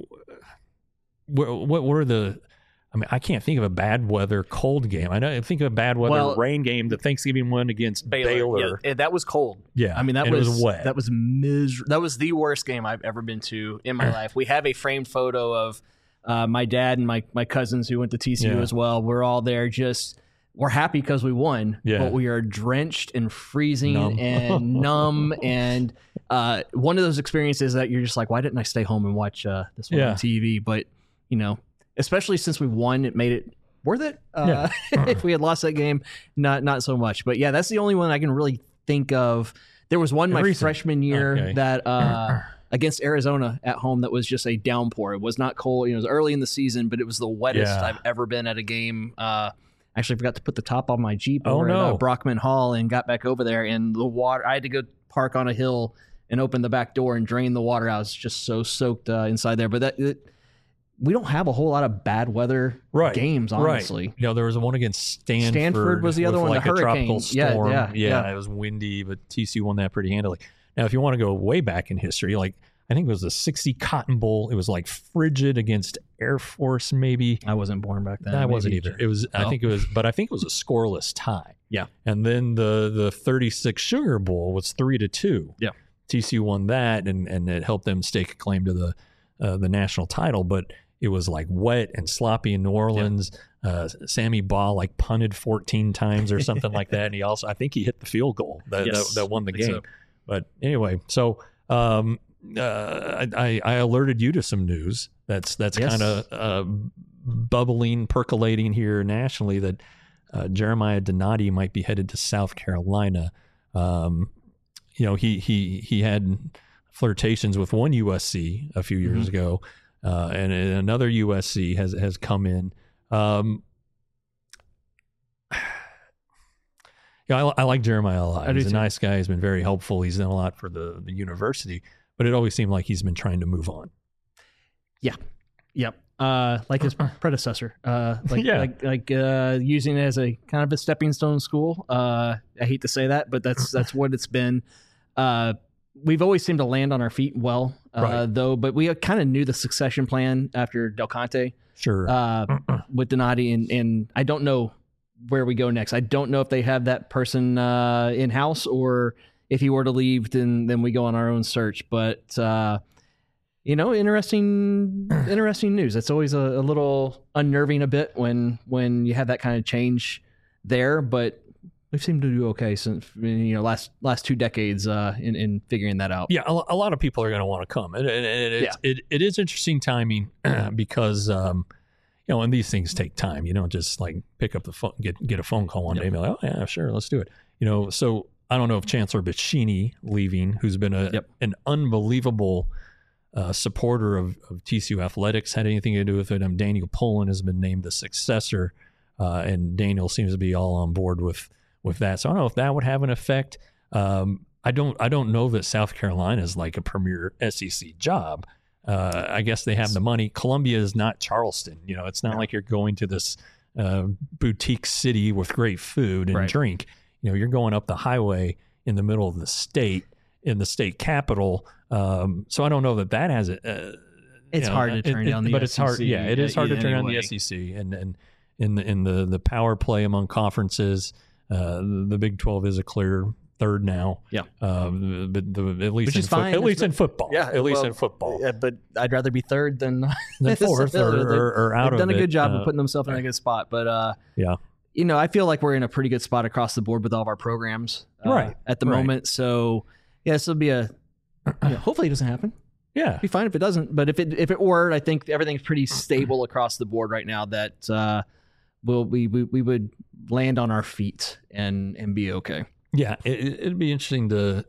what what were the? I mean, I can't think of a bad weather cold game. I know I think of a bad weather Well, rain game, the Thanksgiving one against Baylor. Yeah, that was cold. Yeah, I mean, that and was, it was wet. That was mis- That was the worst game I've ever been to in my life. We have a framed photo of uh, my dad and my my cousins who went to T C U Yeah. as well. We're all there. Just we're happy because we won, Yeah. but we are drenched and freezing Numb. and numb. And uh, one of those experiences that you're just like, why didn't I stay home and watch uh, this one Yeah. on T V? But you know, especially since we won, it made it worth it. Uh, if we had lost that game, not not so much. But yeah, that's the only one I can really think of. There was one my Recent. freshman year Okay. that uh, against Arizona at home that was just a downpour. It was not cold. You know, it was early in the season, but it was the wettest Yeah. I've ever been at a game. Uh, actually forgot to put the top on my Jeep Oh, over at uh, no. Brockman Hall and got back over there, and the water. I had to go park on a hill and open the back door and drain the water out. I was just so soaked uh, inside there. But that. It, we don't have a whole lot of bad weather Right. games, honestly. Right. You know, there was one against Stanford. Stanford was the other with one, the like a tropical hurricane. Yeah, storm. yeah, yeah. it was windy, but T C U won that pretty handily. Now, if you want to go way back in history, like I think it was the sixty Cotton Bowl. It was like frigid against Air Force, maybe. I wasn't born back then. I wasn't Maybe. either. It was. I Oh. think it was, but I think it was a scoreless tie. Yeah. And then the the thirty-six Sugar Bowl was three to two. Yeah. T C U won that, and and it helped them stake a claim to the uh, the national title. But it was like wet and sloppy in New Orleans. Uh, Sammy Baugh like punted fourteen times or something like that, and he also I think he hit the field goal that Yes, that, that won the I think game. so. But anyway, so. Um, uh, I, I alerted you to some news that's that's Yes. kind of uh, bubbling, percolating here nationally that uh, Jeremiah Donati might be headed to South Carolina. Um, you know, he he he had flirtations with one U S C a few years Mhm. ago, uh, and another U S C has has come in. Um, Yeah, I, I like Jeremiah a lot. I do He's a too. nice guy. He's been very helpful. He's done a lot for the, the university, but it always seemed like he's been trying to move on. Yep. Uh, like his predecessor. Uh, like Yeah. like like uh, using it as a kind of a stepping stone school. Uh, I hate to say that, but that's that's what it's been. Uh, we've always seemed to land on our feet well, uh, Right. though. But we kind of knew the succession plan after Del Conte Sure. uh, with Donati, and and I don't know where we go next. I don't know if they have that person uh, in house, or if he were to leave, then then we go on our own search. But uh, you know, interesting, interesting news. It's always a, a little unnerving a bit when when you have that kind of change there, but we've seemed to do okay since you know last last two decades uh, in in figuring that out. Yeah, a, a lot of people are going to want to come, and, and, and it's, it it is interesting timing because um, you know, and these things take time. You don't just like pick up the phone, get get a phone call one Yep. day, and be like, oh yeah, sure, let's do it. You know, so I don't know if Chancellor Bicchini leaving, who's been a Yep. an unbelievable uh, supporter of, of T C U athletics, had anything to do with it. Um, Daniel Poland has been named the successor, uh, and Daniel seems to be all on board with with that. So I don't know if that would have an effect. Um, I don't I don't know that South Carolina is like a premier S E C job. Uh, I guess they have the money. Columbia is not Charleston. You know, it's not like you're going to this uh, boutique city with great food and Right. drink. You know, you're going up the highway in the middle of the state, in the state capital. Um, so I don't know that that has it. Uh, It's you know, hard to turn it, down it, the but S E C. it's hard. Yeah, it is hard to turn down the anyway. S E C, and and in the in the the power play among conferences, uh, the, the Big twelve is a clear third now. Yeah. um, but the, at least Which in is fo- fine. at least It's- in football. Yeah, at least well, in football. Yeah, but I'd rather be third than Than fourth or, or, or out They've of done a it. good job Uh, of putting themselves in a good spot. But uh, Yeah. you know, I feel like we're in a pretty good spot across the board with all of our programs, uh, Right, at the right. moment. So yeah, this will be a. You know, hopefully, it doesn't happen. Yeah. It'd be fine if it doesn't. But if it if it were, I think everything's pretty stable across the board right now. That uh, will we, we we would land on our feet and and be okay. Yeah, it, it'd be interesting to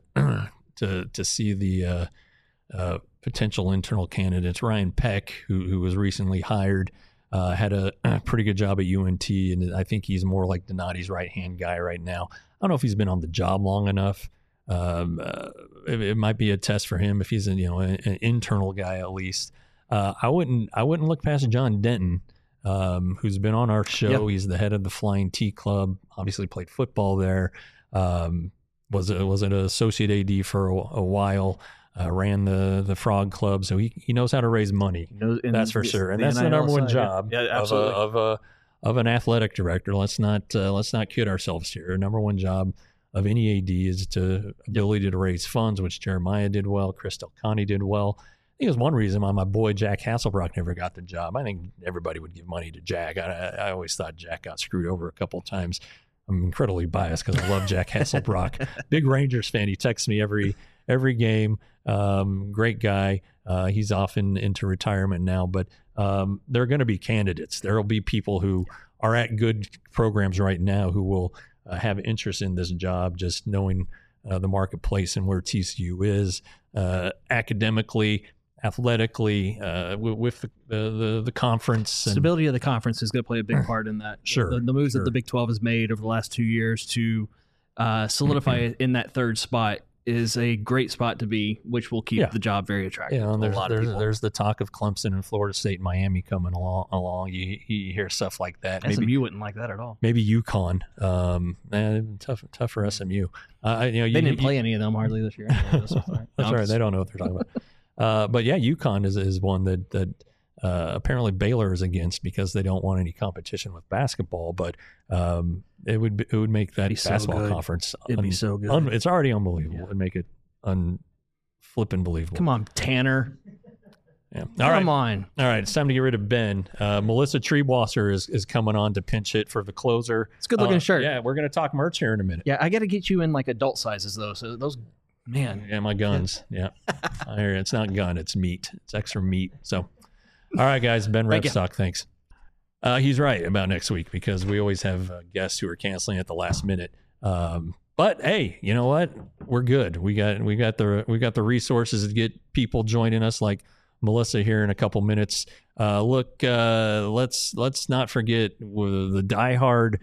to to see the uh, uh, potential internal candidates. Ryan Peck, who who was recently hired, uh, had a, a pretty good job at U N T, and I think he's more like Donati's right hand guy right now. I don't know if he's been on the job long enough. Um, uh, it, it might be a test for him if he's a, you know an, an internal guy at least. Uh, I wouldn't I wouldn't look past John Denton, um, who's been on our show. Yep. He's the head of the Flying T Club. Obviously played football there. Um, was a, was an associate A D for a, a while. Uh, ran the the Frog Club, so he he knows how to raise money. Knows- and That's for the- sure, and the that's the N I L number one side, yeah. job Yeah, of a absolutely. of a of an athletic director. Let's not uh, let's not kid ourselves here. Number one job of any A D is to ability to raise funds, which Jeremiah did well. Chris Delcani did well. I think it was one reason why my boy Jack Hasselbrock never got the job. I think everybody would give money to Jack. I, I always thought Jack got screwed over a couple of times. I'm incredibly biased because I love Jack Hasselbrock. Big Rangers fan. He texts me every every game. Um, great guy. Uh, he's often into retirement now, but um, there are going to be candidates. There will be people who are at good programs right now who will uh, have interest in this job, just knowing uh, the marketplace and where T C U is uh, academically, athletically, uh, with, with the, the the conference. And, Stability of the conference is going to play a big part in that. Sure, the, the moves sure. that the Big twelve has made over the last two years to uh, solidify it in that third spot is a great spot to be, which will keep Yeah. the job very attractive You know, and to a there's, lot of there's, people. there's the talk of Clemson and Florida State and Miami coming along. along. You, you hear stuff like that. S M U Maybe wouldn't like that at all. maybe UConn. Um, eh, tough tough for S M U. Uh, you know, you, They didn't you- play any of them hardly this year. Anyway, so far. That's No, right. They don't know what they're talking about. Uh, but yeah, UConn is is one that that uh, apparently Baylor is against because they don't want any competition with basketball. But um, it would be, it would make that Be so basketball good. conference. It'd be so good. un- it's already unbelievable. Yeah. It'd make it un flippin' believable. Come on, Tanner. Yeah. All Come right. on. All right. It's time to get rid of Ben. Uh, Melissa Treebwasser is is coming on to pinch hit for the closer. It's a good looking Uh, shirt. Yeah, we're gonna talk merch here in a minute. Yeah, I got to get you in like adult sizes though. So those, man, Yeah, my guns. Yeah. I hear you. It's not gun, it's meat. It's extra meat. So, all right, guys. Ben Thank you. Repstock, thanks. Uh, he's right about next week because we always have uh, guests who are canceling at the last minute. Um, but hey, you know what? We're good. We got we got the we got the resources to get people joining us like Melissa here in a couple minutes. Uh, look, uh, let's let's not forget uh, the diehard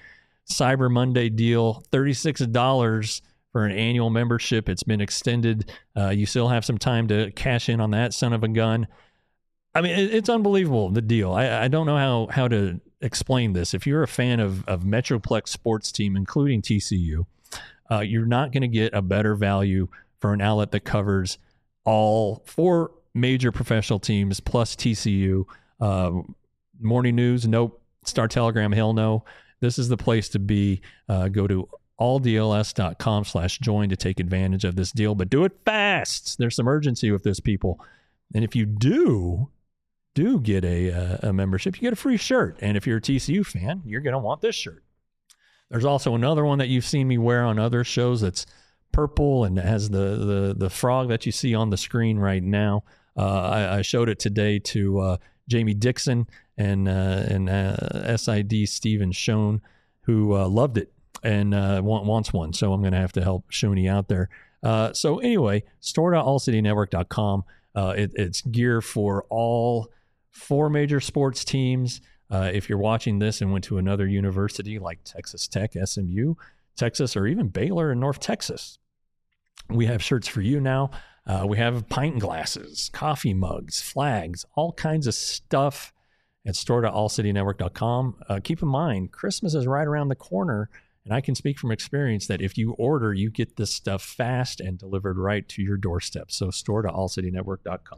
Cyber Monday deal, thirty-six dollars for an annual membership. It's been extended. Uh, you still have some time to cash in on that son of a gun. I mean, it, it's unbelievable, the deal. I, I don't know how, how to explain this. If you're a fan of, of Metroplex sports team, including T C U, uh, you're not going to get a better value for an outlet that covers all four major professional teams plus T C U. Uh, morning news, nope. Star Telegram, hell no. This is the place to be. Uh, go to alldls.com slash join to take advantage of this deal, but do it fast. There's some urgency with this, people. And if you do, do get a, a, a membership, you get a free shirt. And if you're a T C U fan, you're going to want this shirt. There's also another one that you've seen me wear on other shows that's purple and has the, the, the frog that you see on the screen right now. Uh, I, I showed it today to uh, Jamie Dixon and, uh, and uh, S I D Steven Schoen, who uh, loved it and uh, want, wants one. So I'm going to have to help Shoney out there. Uh, so anyway, store dot all city network dot com. Uh, it, it's gear for all four major sports teams. Uh, if you're watching this and went to another university like Texas Tech, S M U, Texas, or even Baylor in North Texas, we have shirts for you now. Uh, we have pint glasses, coffee mugs, flags, all kinds of stuff at store dot all city network dot com. Uh, keep in mind, Christmas is right around the corner. And I can speak from experience that if you order, you get this stuff fast and delivered right to your doorstep. So store dot all city network dot com.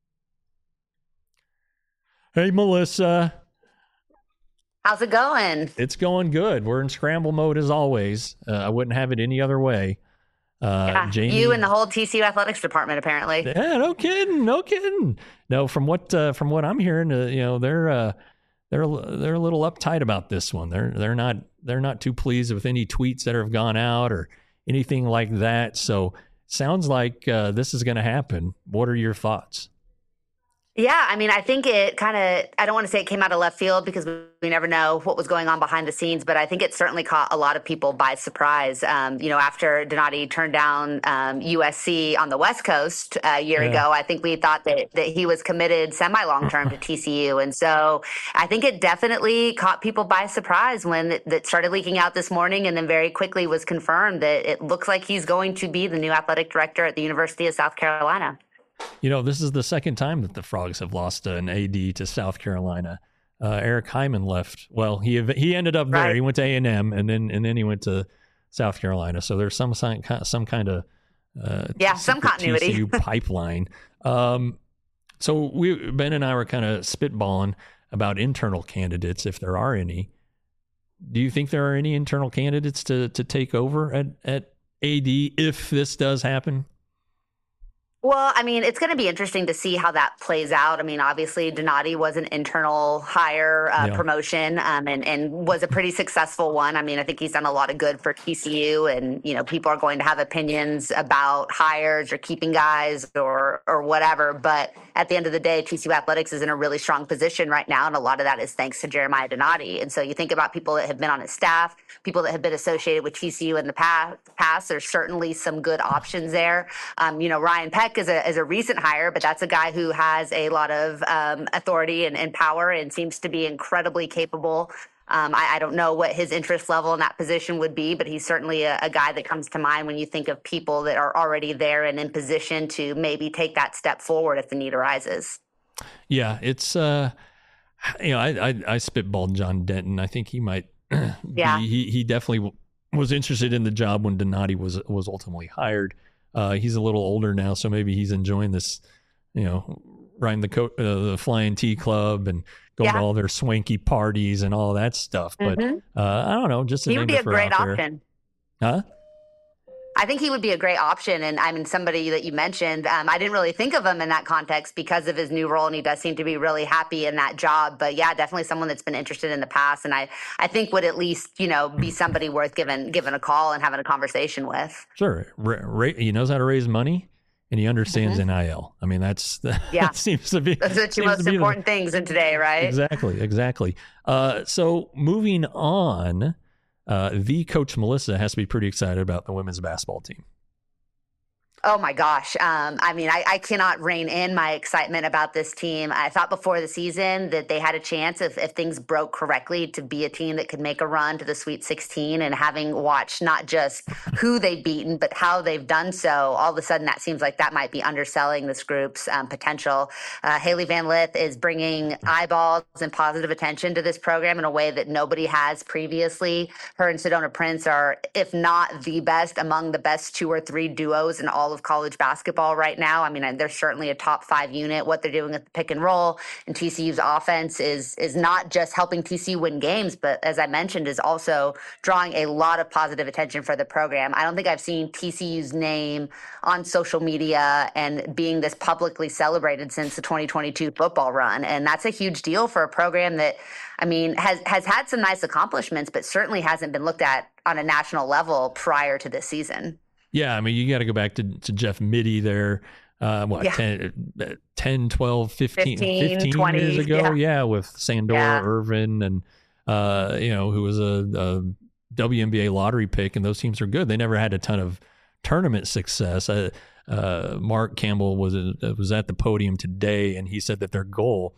Hey, Melissa. How's it going? It's going good. We're in scramble mode as always. Uh, I wouldn't have it any other way. Uh, yeah, Jamie, you and the whole T C U athletics department, apparently. Yeah, no kidding, no kidding. No, from what uh, from what I'm hearing, uh, you know, they're uh, they're they're a little uptight about this one. They're they're not they're not too pleased with any tweets that have gone out or anything like that. So sounds like uh, this is going to happen. What are your thoughts? Yeah, I mean, I think it kind of, I don't want to say it came out of left field because we never know what was going on behind the scenes, but I think it certainly caught a lot of people by surprise. Um, you know, after Donati turned down um, U S C on the West Coast a year yeah. ago, I think we thought that, that he was committed semi-long-term to T C U. And so I think it definitely caught people by surprise when it, that started leaking out this morning and then very quickly was confirmed that it looks like he's going to be the new athletic director at the University of South Carolina. You know, this is the second time that the Frogs have lost an A D to South Carolina. Uh, Eric Hyman left. Well, he he ended up there. Right. He went to A and M, and then and then he went to South Carolina. So there's some some kind of uh, yeah, some continuity T C U pipeline. Um, so we Ben and I were kind of spitballing about internal candidates, if there are any. Do you think there are any internal candidates to to take over at at A D if this does happen? Well, I mean, it's going to be interesting to see how that plays out. I mean, obviously, Donati was an internal hire uh, yeah. promotion um, and, and was a pretty successful one. I mean, I think he's done a lot of good for T C U, and, you know, people are going to have opinions about hires or keeping guys or or whatever. But at the end of the day, T C U Athletics is in a really strong position right now, and a lot of that is thanks to Jeremiah Donati. And so you think about people that have been on his staff, people that have been associated with T C U in the past, past there's certainly some good options there. Um, you know, Ryan Peck is a, is a recent hire, but that's a guy who has a lot of um, authority and, and power and seems to be incredibly capable. Um, I, I don't know what his interest level in that position would be, but he's certainly a, a guy that comes to mind when you think of people that are already there and in position to maybe take that step forward if the need arises. Yeah, it's, uh, you know, I, I, I spitballed John Denton. I think he might yeah. be, he, he definitely was interested in the job when Donati was, was ultimately hired. Uh, he's a little older now, so maybe he's enjoying this, you know, riding the co- uh, the Flying T Club and going yeah. to all their swanky parties and all of that stuff. Mm-hmm. But uh, I don't know, just a he name would be to a throw great out there. option. Huh? I think he would be a great option. And I mean, somebody that you mentioned, um, I didn't really think of him in that context because of his new role. And he does seem to be really happy in that job. But yeah, definitely someone that's been interested in the past. And I, I think would at least, you know, be somebody worth giving, giving a call and having a conversation with. Sure. Ra- ra- he knows how to raise money and he understands mm-hmm. N I L. I mean, that's, that yeah. seems to be those are the two most important the, things in today, right? Exactly. Exactly. Uh, so moving on, Uh, the Coach Melissa has to be pretty excited about the women's basketball team. Oh my gosh. Um, I mean, I, I cannot rein in my excitement about this team. I thought before the season that they had a chance, if, if things broke correctly, to be a team that could make a run to the Sweet sixteen. And having watched not just who they've beaten, but how they've done so, all of a sudden that seems like that might be underselling this group's um, potential. Uh, Hailey Van Lith is bringing eyeballs and positive attention to this program in a way that nobody has previously. Her and Sedona Prince are, if not the best, among the best two or three duos in all of college basketball right now. I mean, they're certainly a top five unit. What they're doing at the pick and roll and T C U's offense is is not just helping T C U win games, but as I mentioned, is also drawing a lot of positive attention for the program. I don't think I've seen T C U's name on social media and being this publicly celebrated since the twenty twenty-two football run. And that's a huge deal for a program that, I mean, has, has had some nice accomplishments, but certainly hasn't been looked at on a national level prior to this season. Yeah, I mean, you got to go back to, to Jeff Mittie there, uh, what, yeah. ten, ten, twelve, fifteen, fifteen, fifteen twenty years ago? Yeah, yeah with Sandora yeah. Irvin and, uh, you know, who was a, a W N B A lottery pick, and those teams are good. They never had a ton of tournament success. Uh, uh, Mark Campbell was, a, was at the podium today, and he said that their goal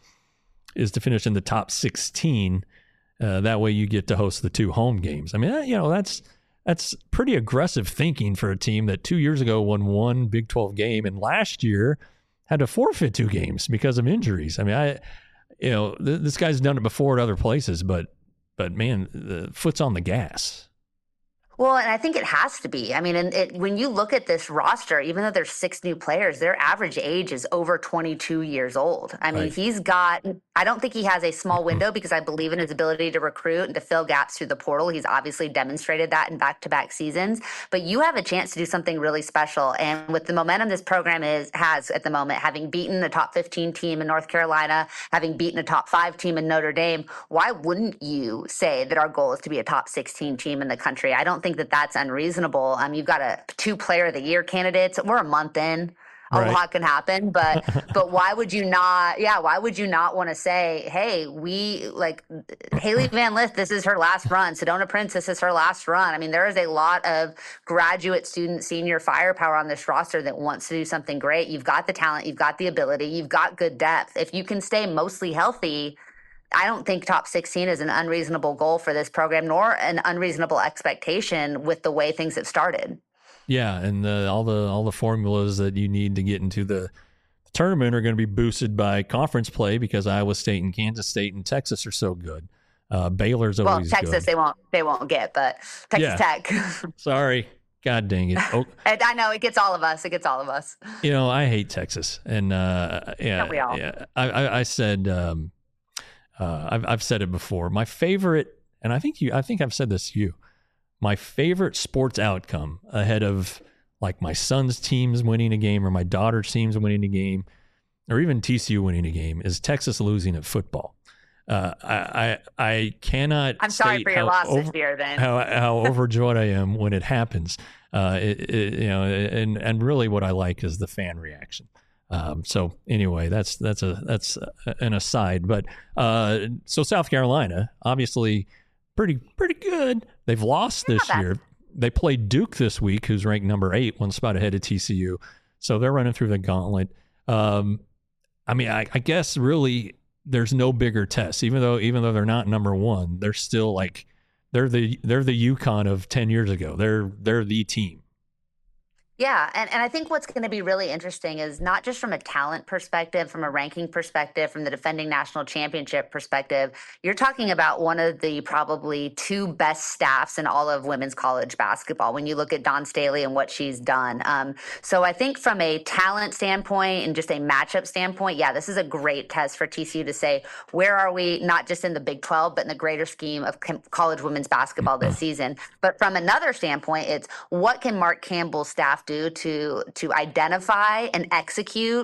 is to finish in the top sixteen. Uh, that way you get to host the two home games. I mean, that, you know, that's... That's pretty aggressive thinking for a team that two years ago won one Big twelve game and last year had to forfeit two games because of injuries. I mean, I, you know, th- this guy's done it before at other places, but, but man, the foot's on the gas. Well, and I think it has to be. I mean, and it, when you look at this roster, even though there's six new players, their average age is over twenty-two years old. I mean, right. he's got, I don't think he has a small window because I believe in his ability to recruit and to fill gaps through the portal. He's obviously demonstrated that in back-to-back seasons, but you have a chance to do something really special. And with the momentum this program is has at the moment, having beaten a top fifteen team in North Carolina, having beaten a top five team in Notre Dame, why wouldn't you say that our goal is to be a top sixteen team in the country? I don't think that that's unreasonable. Um, you've got a two player of the year candidates. We're a month in. A right. lot can happen, but but why would you not? Yeah, why would you not want to say, hey, we like Hailey Van Lith, this is her last run. Sedona Prince, this is her last run. I mean, there is a lot of graduate student senior firepower on this roster that wants to do something great. You've got the talent, you've got the ability, you've got good depth. If you can stay mostly healthy, I don't think top sixteen is an unreasonable goal for this program, nor an unreasonable expectation with the way things have started. Yeah, and the, all the all the formulas that you need to get into the tournament are going to be boosted by conference play because Iowa State and Kansas State and Texas are so good. Uh, Baylor's always well, Texas good. they won't they won't get, but Texas yeah. Tech. Sorry, God dang it! Oh. And I know it gets all of us. It gets all of us. You know, I hate Texas, and uh, yeah, Don't we all? yeah. I, I, I said um, uh, I've I've said it before. My favorite, and I think you, I think I've said this to you. My favorite sports outcome ahead of like my son's teams winning a game or my daughter's teams winning a game or even T C U winning a game is Texas losing at football. Uh, I, I I cannot. I'm sorry for your loss over, this year. Then how how overjoyed I am when it happens. Uh, it, it, you know, and and really what I like is the fan reaction. Um, so anyway, that's that's a that's an aside. But uh, so South Carolina, obviously. Pretty pretty good. They've lost this year. They played Duke this week, who's ranked number eight, one spot ahead of T C U. So they're running through the gauntlet. Um, I mean, I, I guess really there's no bigger test. Even though even though they're not number one, they're still like they're the they're the UConn of ten years ago. They're they're the team. Yeah, and, and I think what's going to be really interesting is not just from a talent perspective, from a ranking perspective, from the defending national championship perspective, you're talking about one of the probably two best staffs in all of women's college basketball when you look at Dawn Staley and what she's done. Um, so I think from a talent standpoint and just a matchup standpoint, yeah, this is a great test for T C U to say, where are we, not just in the Big twelve, but in the greater scheme of college women's basketball this season. But from another standpoint, it's what can Mark Campbell's staff do to to identify and execute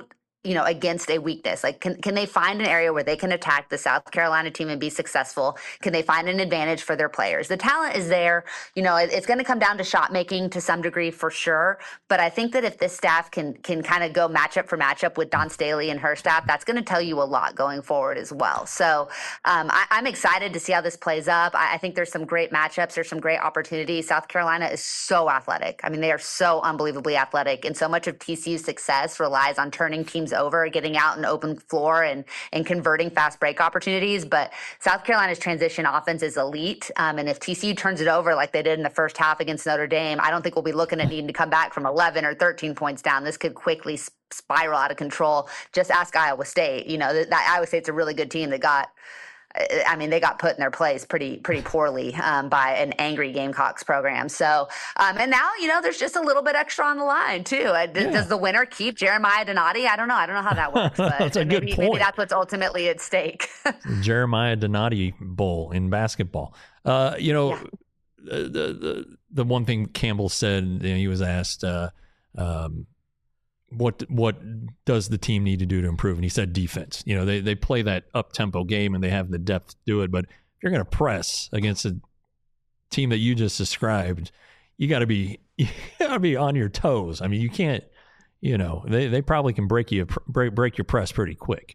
you know, against a weakness? Like, can, can they find an area where they can attack the South Carolina team and be successful? Can they find an advantage for their players? The talent is there. You know, it, it's going to come down to shot making to some degree for sure. But I think that if this staff can can kind of go matchup for matchup with Dawn Staley and her staff, that's going to tell you a lot going forward as well. So um, I, I'm excited to see how this plays up. I, I think there's some great matchups. There's some great opportunities. South Carolina is so athletic. I mean, they are so unbelievably athletic. And so much of T C U's success relies on turning teams over, getting out an open floor and, and converting fast break opportunities. But South Carolina's transition offense is elite. Um, and if T C U turns it over like they did in the first half against Notre Dame, I don't think we'll be looking at needing to come back from eleven or thirteen points down. This could quickly spiral out of control. Just ask Iowa State. You know, that, that Iowa State's a really good team that got, I mean, they got put in their place pretty pretty poorly um, by an angry Gamecocks program. So, um, and now, you know, there's just a little bit extra on the line, too. Uh, d- yeah. Does the winner keep Jeremiah Donati? I don't know. I don't know how that works. But that's a maybe, good point. Maybe that's what's ultimately at stake. Jeremiah Donati Bowl in basketball. Uh, you know, yeah. the, the the one thing Campbell said, you know, he was asked, uh, um, what what does the team need to do to improve? And he said defense. You know, they, they play that up-tempo game and they have the depth to do it. But if you're going to press against a team that you just described, you got to be you got to be on your toes. I mean, you can't, you know, they, they probably can break you break break your press pretty quick.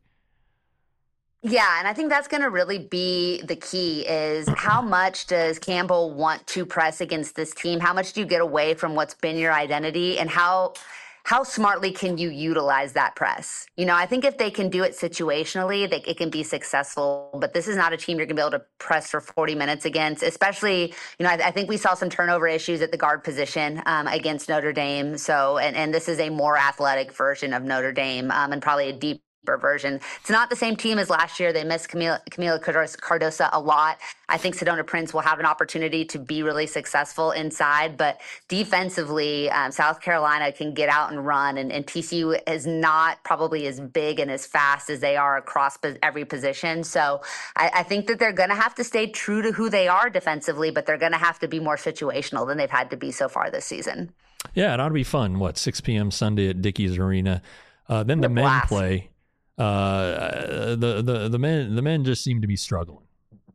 Yeah, and I think that's going to really be the key is how much does Campbell want to press against this team? How much do you get away from what's been your identity, and how how smartly can you utilize that press? You know, I think if they can do it situationally, they, it can be successful. But this is not a team you're going to be able to press for forty minutes against, especially, you know, I, I think we saw some turnover issues at the guard position um, against Notre Dame. So, and, and this is a more athletic version of Notre Dame um, and probably a deep version. It's not the same team as last year. They missed Camila, Camila Cardosa a lot. I think Sedona Prince will have an opportunity to be really successful inside, but defensively, um, South Carolina can get out and run, and, and T C U is not probably as big and as fast as they are across every position. So I, I think that they're going to have to stay true to who they are defensively, but they're going to have to be more situational than they've had to be so far this season. Yeah, it ought to be fun. What, six p.m. Sunday at Dickies Arena. Uh, then the men blast. play. Uh, the, the, the men, the men just seem to be struggling.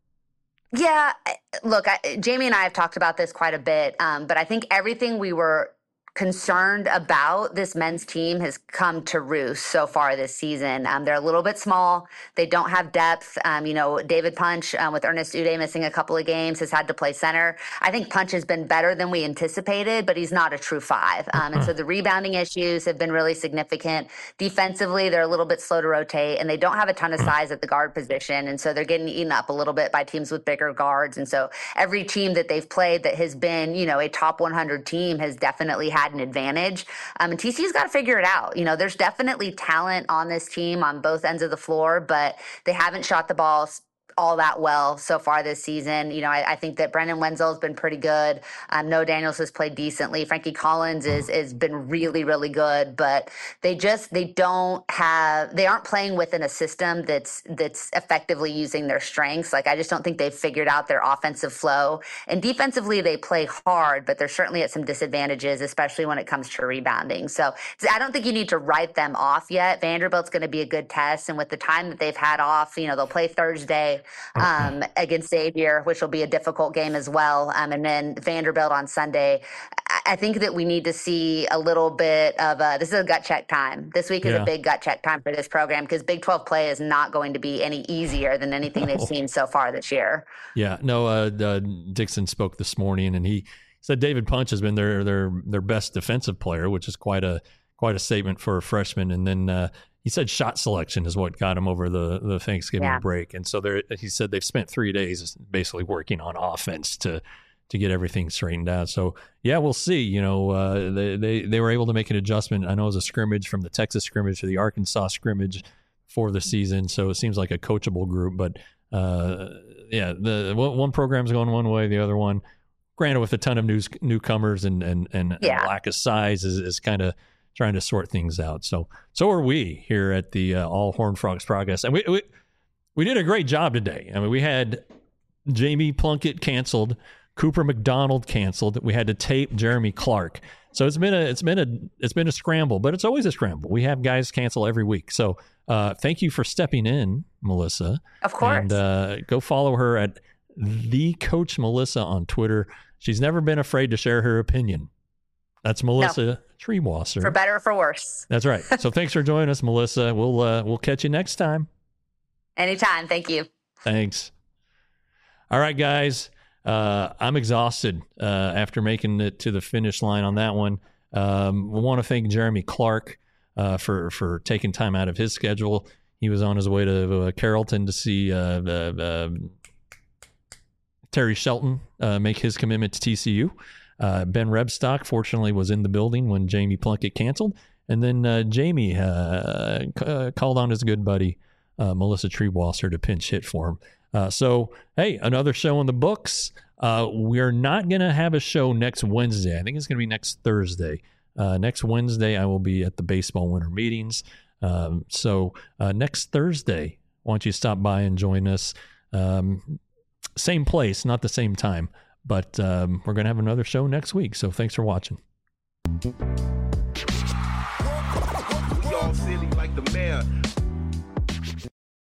Yeah, look, I, Jamie and I have talked about this quite a bit, um, but I think everything we were concerned about this men's team has come to roost so far this season. Um, they're a little bit small. They don't have depth. Um, you know, David Punch, um, with Ernest Uday missing a couple of games, has had to play center. I think Punch has been better than we anticipated, but he's not a true five. Um, and so the rebounding issues have been really significant. Defensively, they're a little bit slow to rotate, and they don't have a ton of size at the guard position. And so they're getting eaten up a little bit by teams with bigger guards. And so every team that they've played that has been, you know, a top one hundred team has definitely had an advantage. Um, and T C U's got to figure it out. You know, there's definitely talent on this team on both ends of the floor, but they haven't shot the ball all that well so far this season. You know, I, I think that Brendan Wenzel has been pretty good. Um, Noah Daniels has played decently. Frankie Collins is is been really, really good, but they just they don't have they aren't playing within a system that's that's effectively using their strengths. Like, I just don't think they've figured out their offensive flow. And defensively, they play hard, but they're certainly at some disadvantages, especially when it comes to rebounding. So I don't think you need to write them off yet. Vanderbilt's going to be a good test, and with the time that they've had off, you know, they'll play Thursday um, against Xavier, which will be a difficult game as well. Um, and then Vanderbilt on Sunday. I think that we need to see a little bit of a, this is a gut check time. This week is yeah. a big gut check time for this program, because Big twelve play is not going to be any easier than anything no. they've seen so far this year. Yeah, no, uh, uh, Dixon spoke this morning, and he said David Punch has been their, their, their best defensive player, which is quite a, quite a statement for a freshman. And then, uh, he said shot selection is what got him over the, the Thanksgiving yeah. break. And so there, he said they've spent three days basically working on offense to to get everything straightened out. So, yeah, we'll see. You know, uh, they, they, they were able to make an adjustment. I know it was a scrimmage from the Texas scrimmage to the Arkansas scrimmage for the season. So it seems like a coachable group. But, uh, yeah, the one program's going one way, the other one, granted with a ton of news, newcomers and, and, and, yeah. and lack of size, is, is kind of trying to sort things out. So, so are we here at the uh, All Horned Frogs Progress. And we, we we did a great job today. I mean, we had Jamie Plunkett canceled, Cooper McDonald canceled. We had to tape Jeremy Clark. So it's been a it's been a it's been a scramble, but it's always a scramble. We have guys cancel every week. So uh, thank you for stepping in, Melissa. Of course. And uh, go follow her at the Coach Melissa on Twitter. She's never been afraid to share her opinion. That's Melissa no. Triebwasser. For better or for worse. That's right. So thanks for joining us, Melissa. We'll uh, we'll catch you next time. Anytime. Thank you. Thanks. All right, guys. Uh, I'm exhausted uh, after making it to the finish line on that one. Um, we want to thank Jeremy Clark uh, for for taking time out of his schedule. He was on his way to uh, Carrollton to see uh, uh, uh, Terry Shelton uh, make his commitment to T C U. Uh, Ben Rebstock, fortunately, was in the building when Jamie Plunkett canceled. And then uh, Jamie uh, c- uh, called on his good buddy, uh, Melissa Triebwasser, to pinch hit for him. Uh, so, hey, another show in the books. Uh, we're not going to have a show next Wednesday. I think it's going to be next Thursday. Uh, next Wednesday, I will be at the baseball winter meetings. Um, so uh, next Thursday, why don't you stop by and join us? Um, same place, not the same time, but um, we're going to have another show next week. So thanks for watching. Y'all silly like the mayor.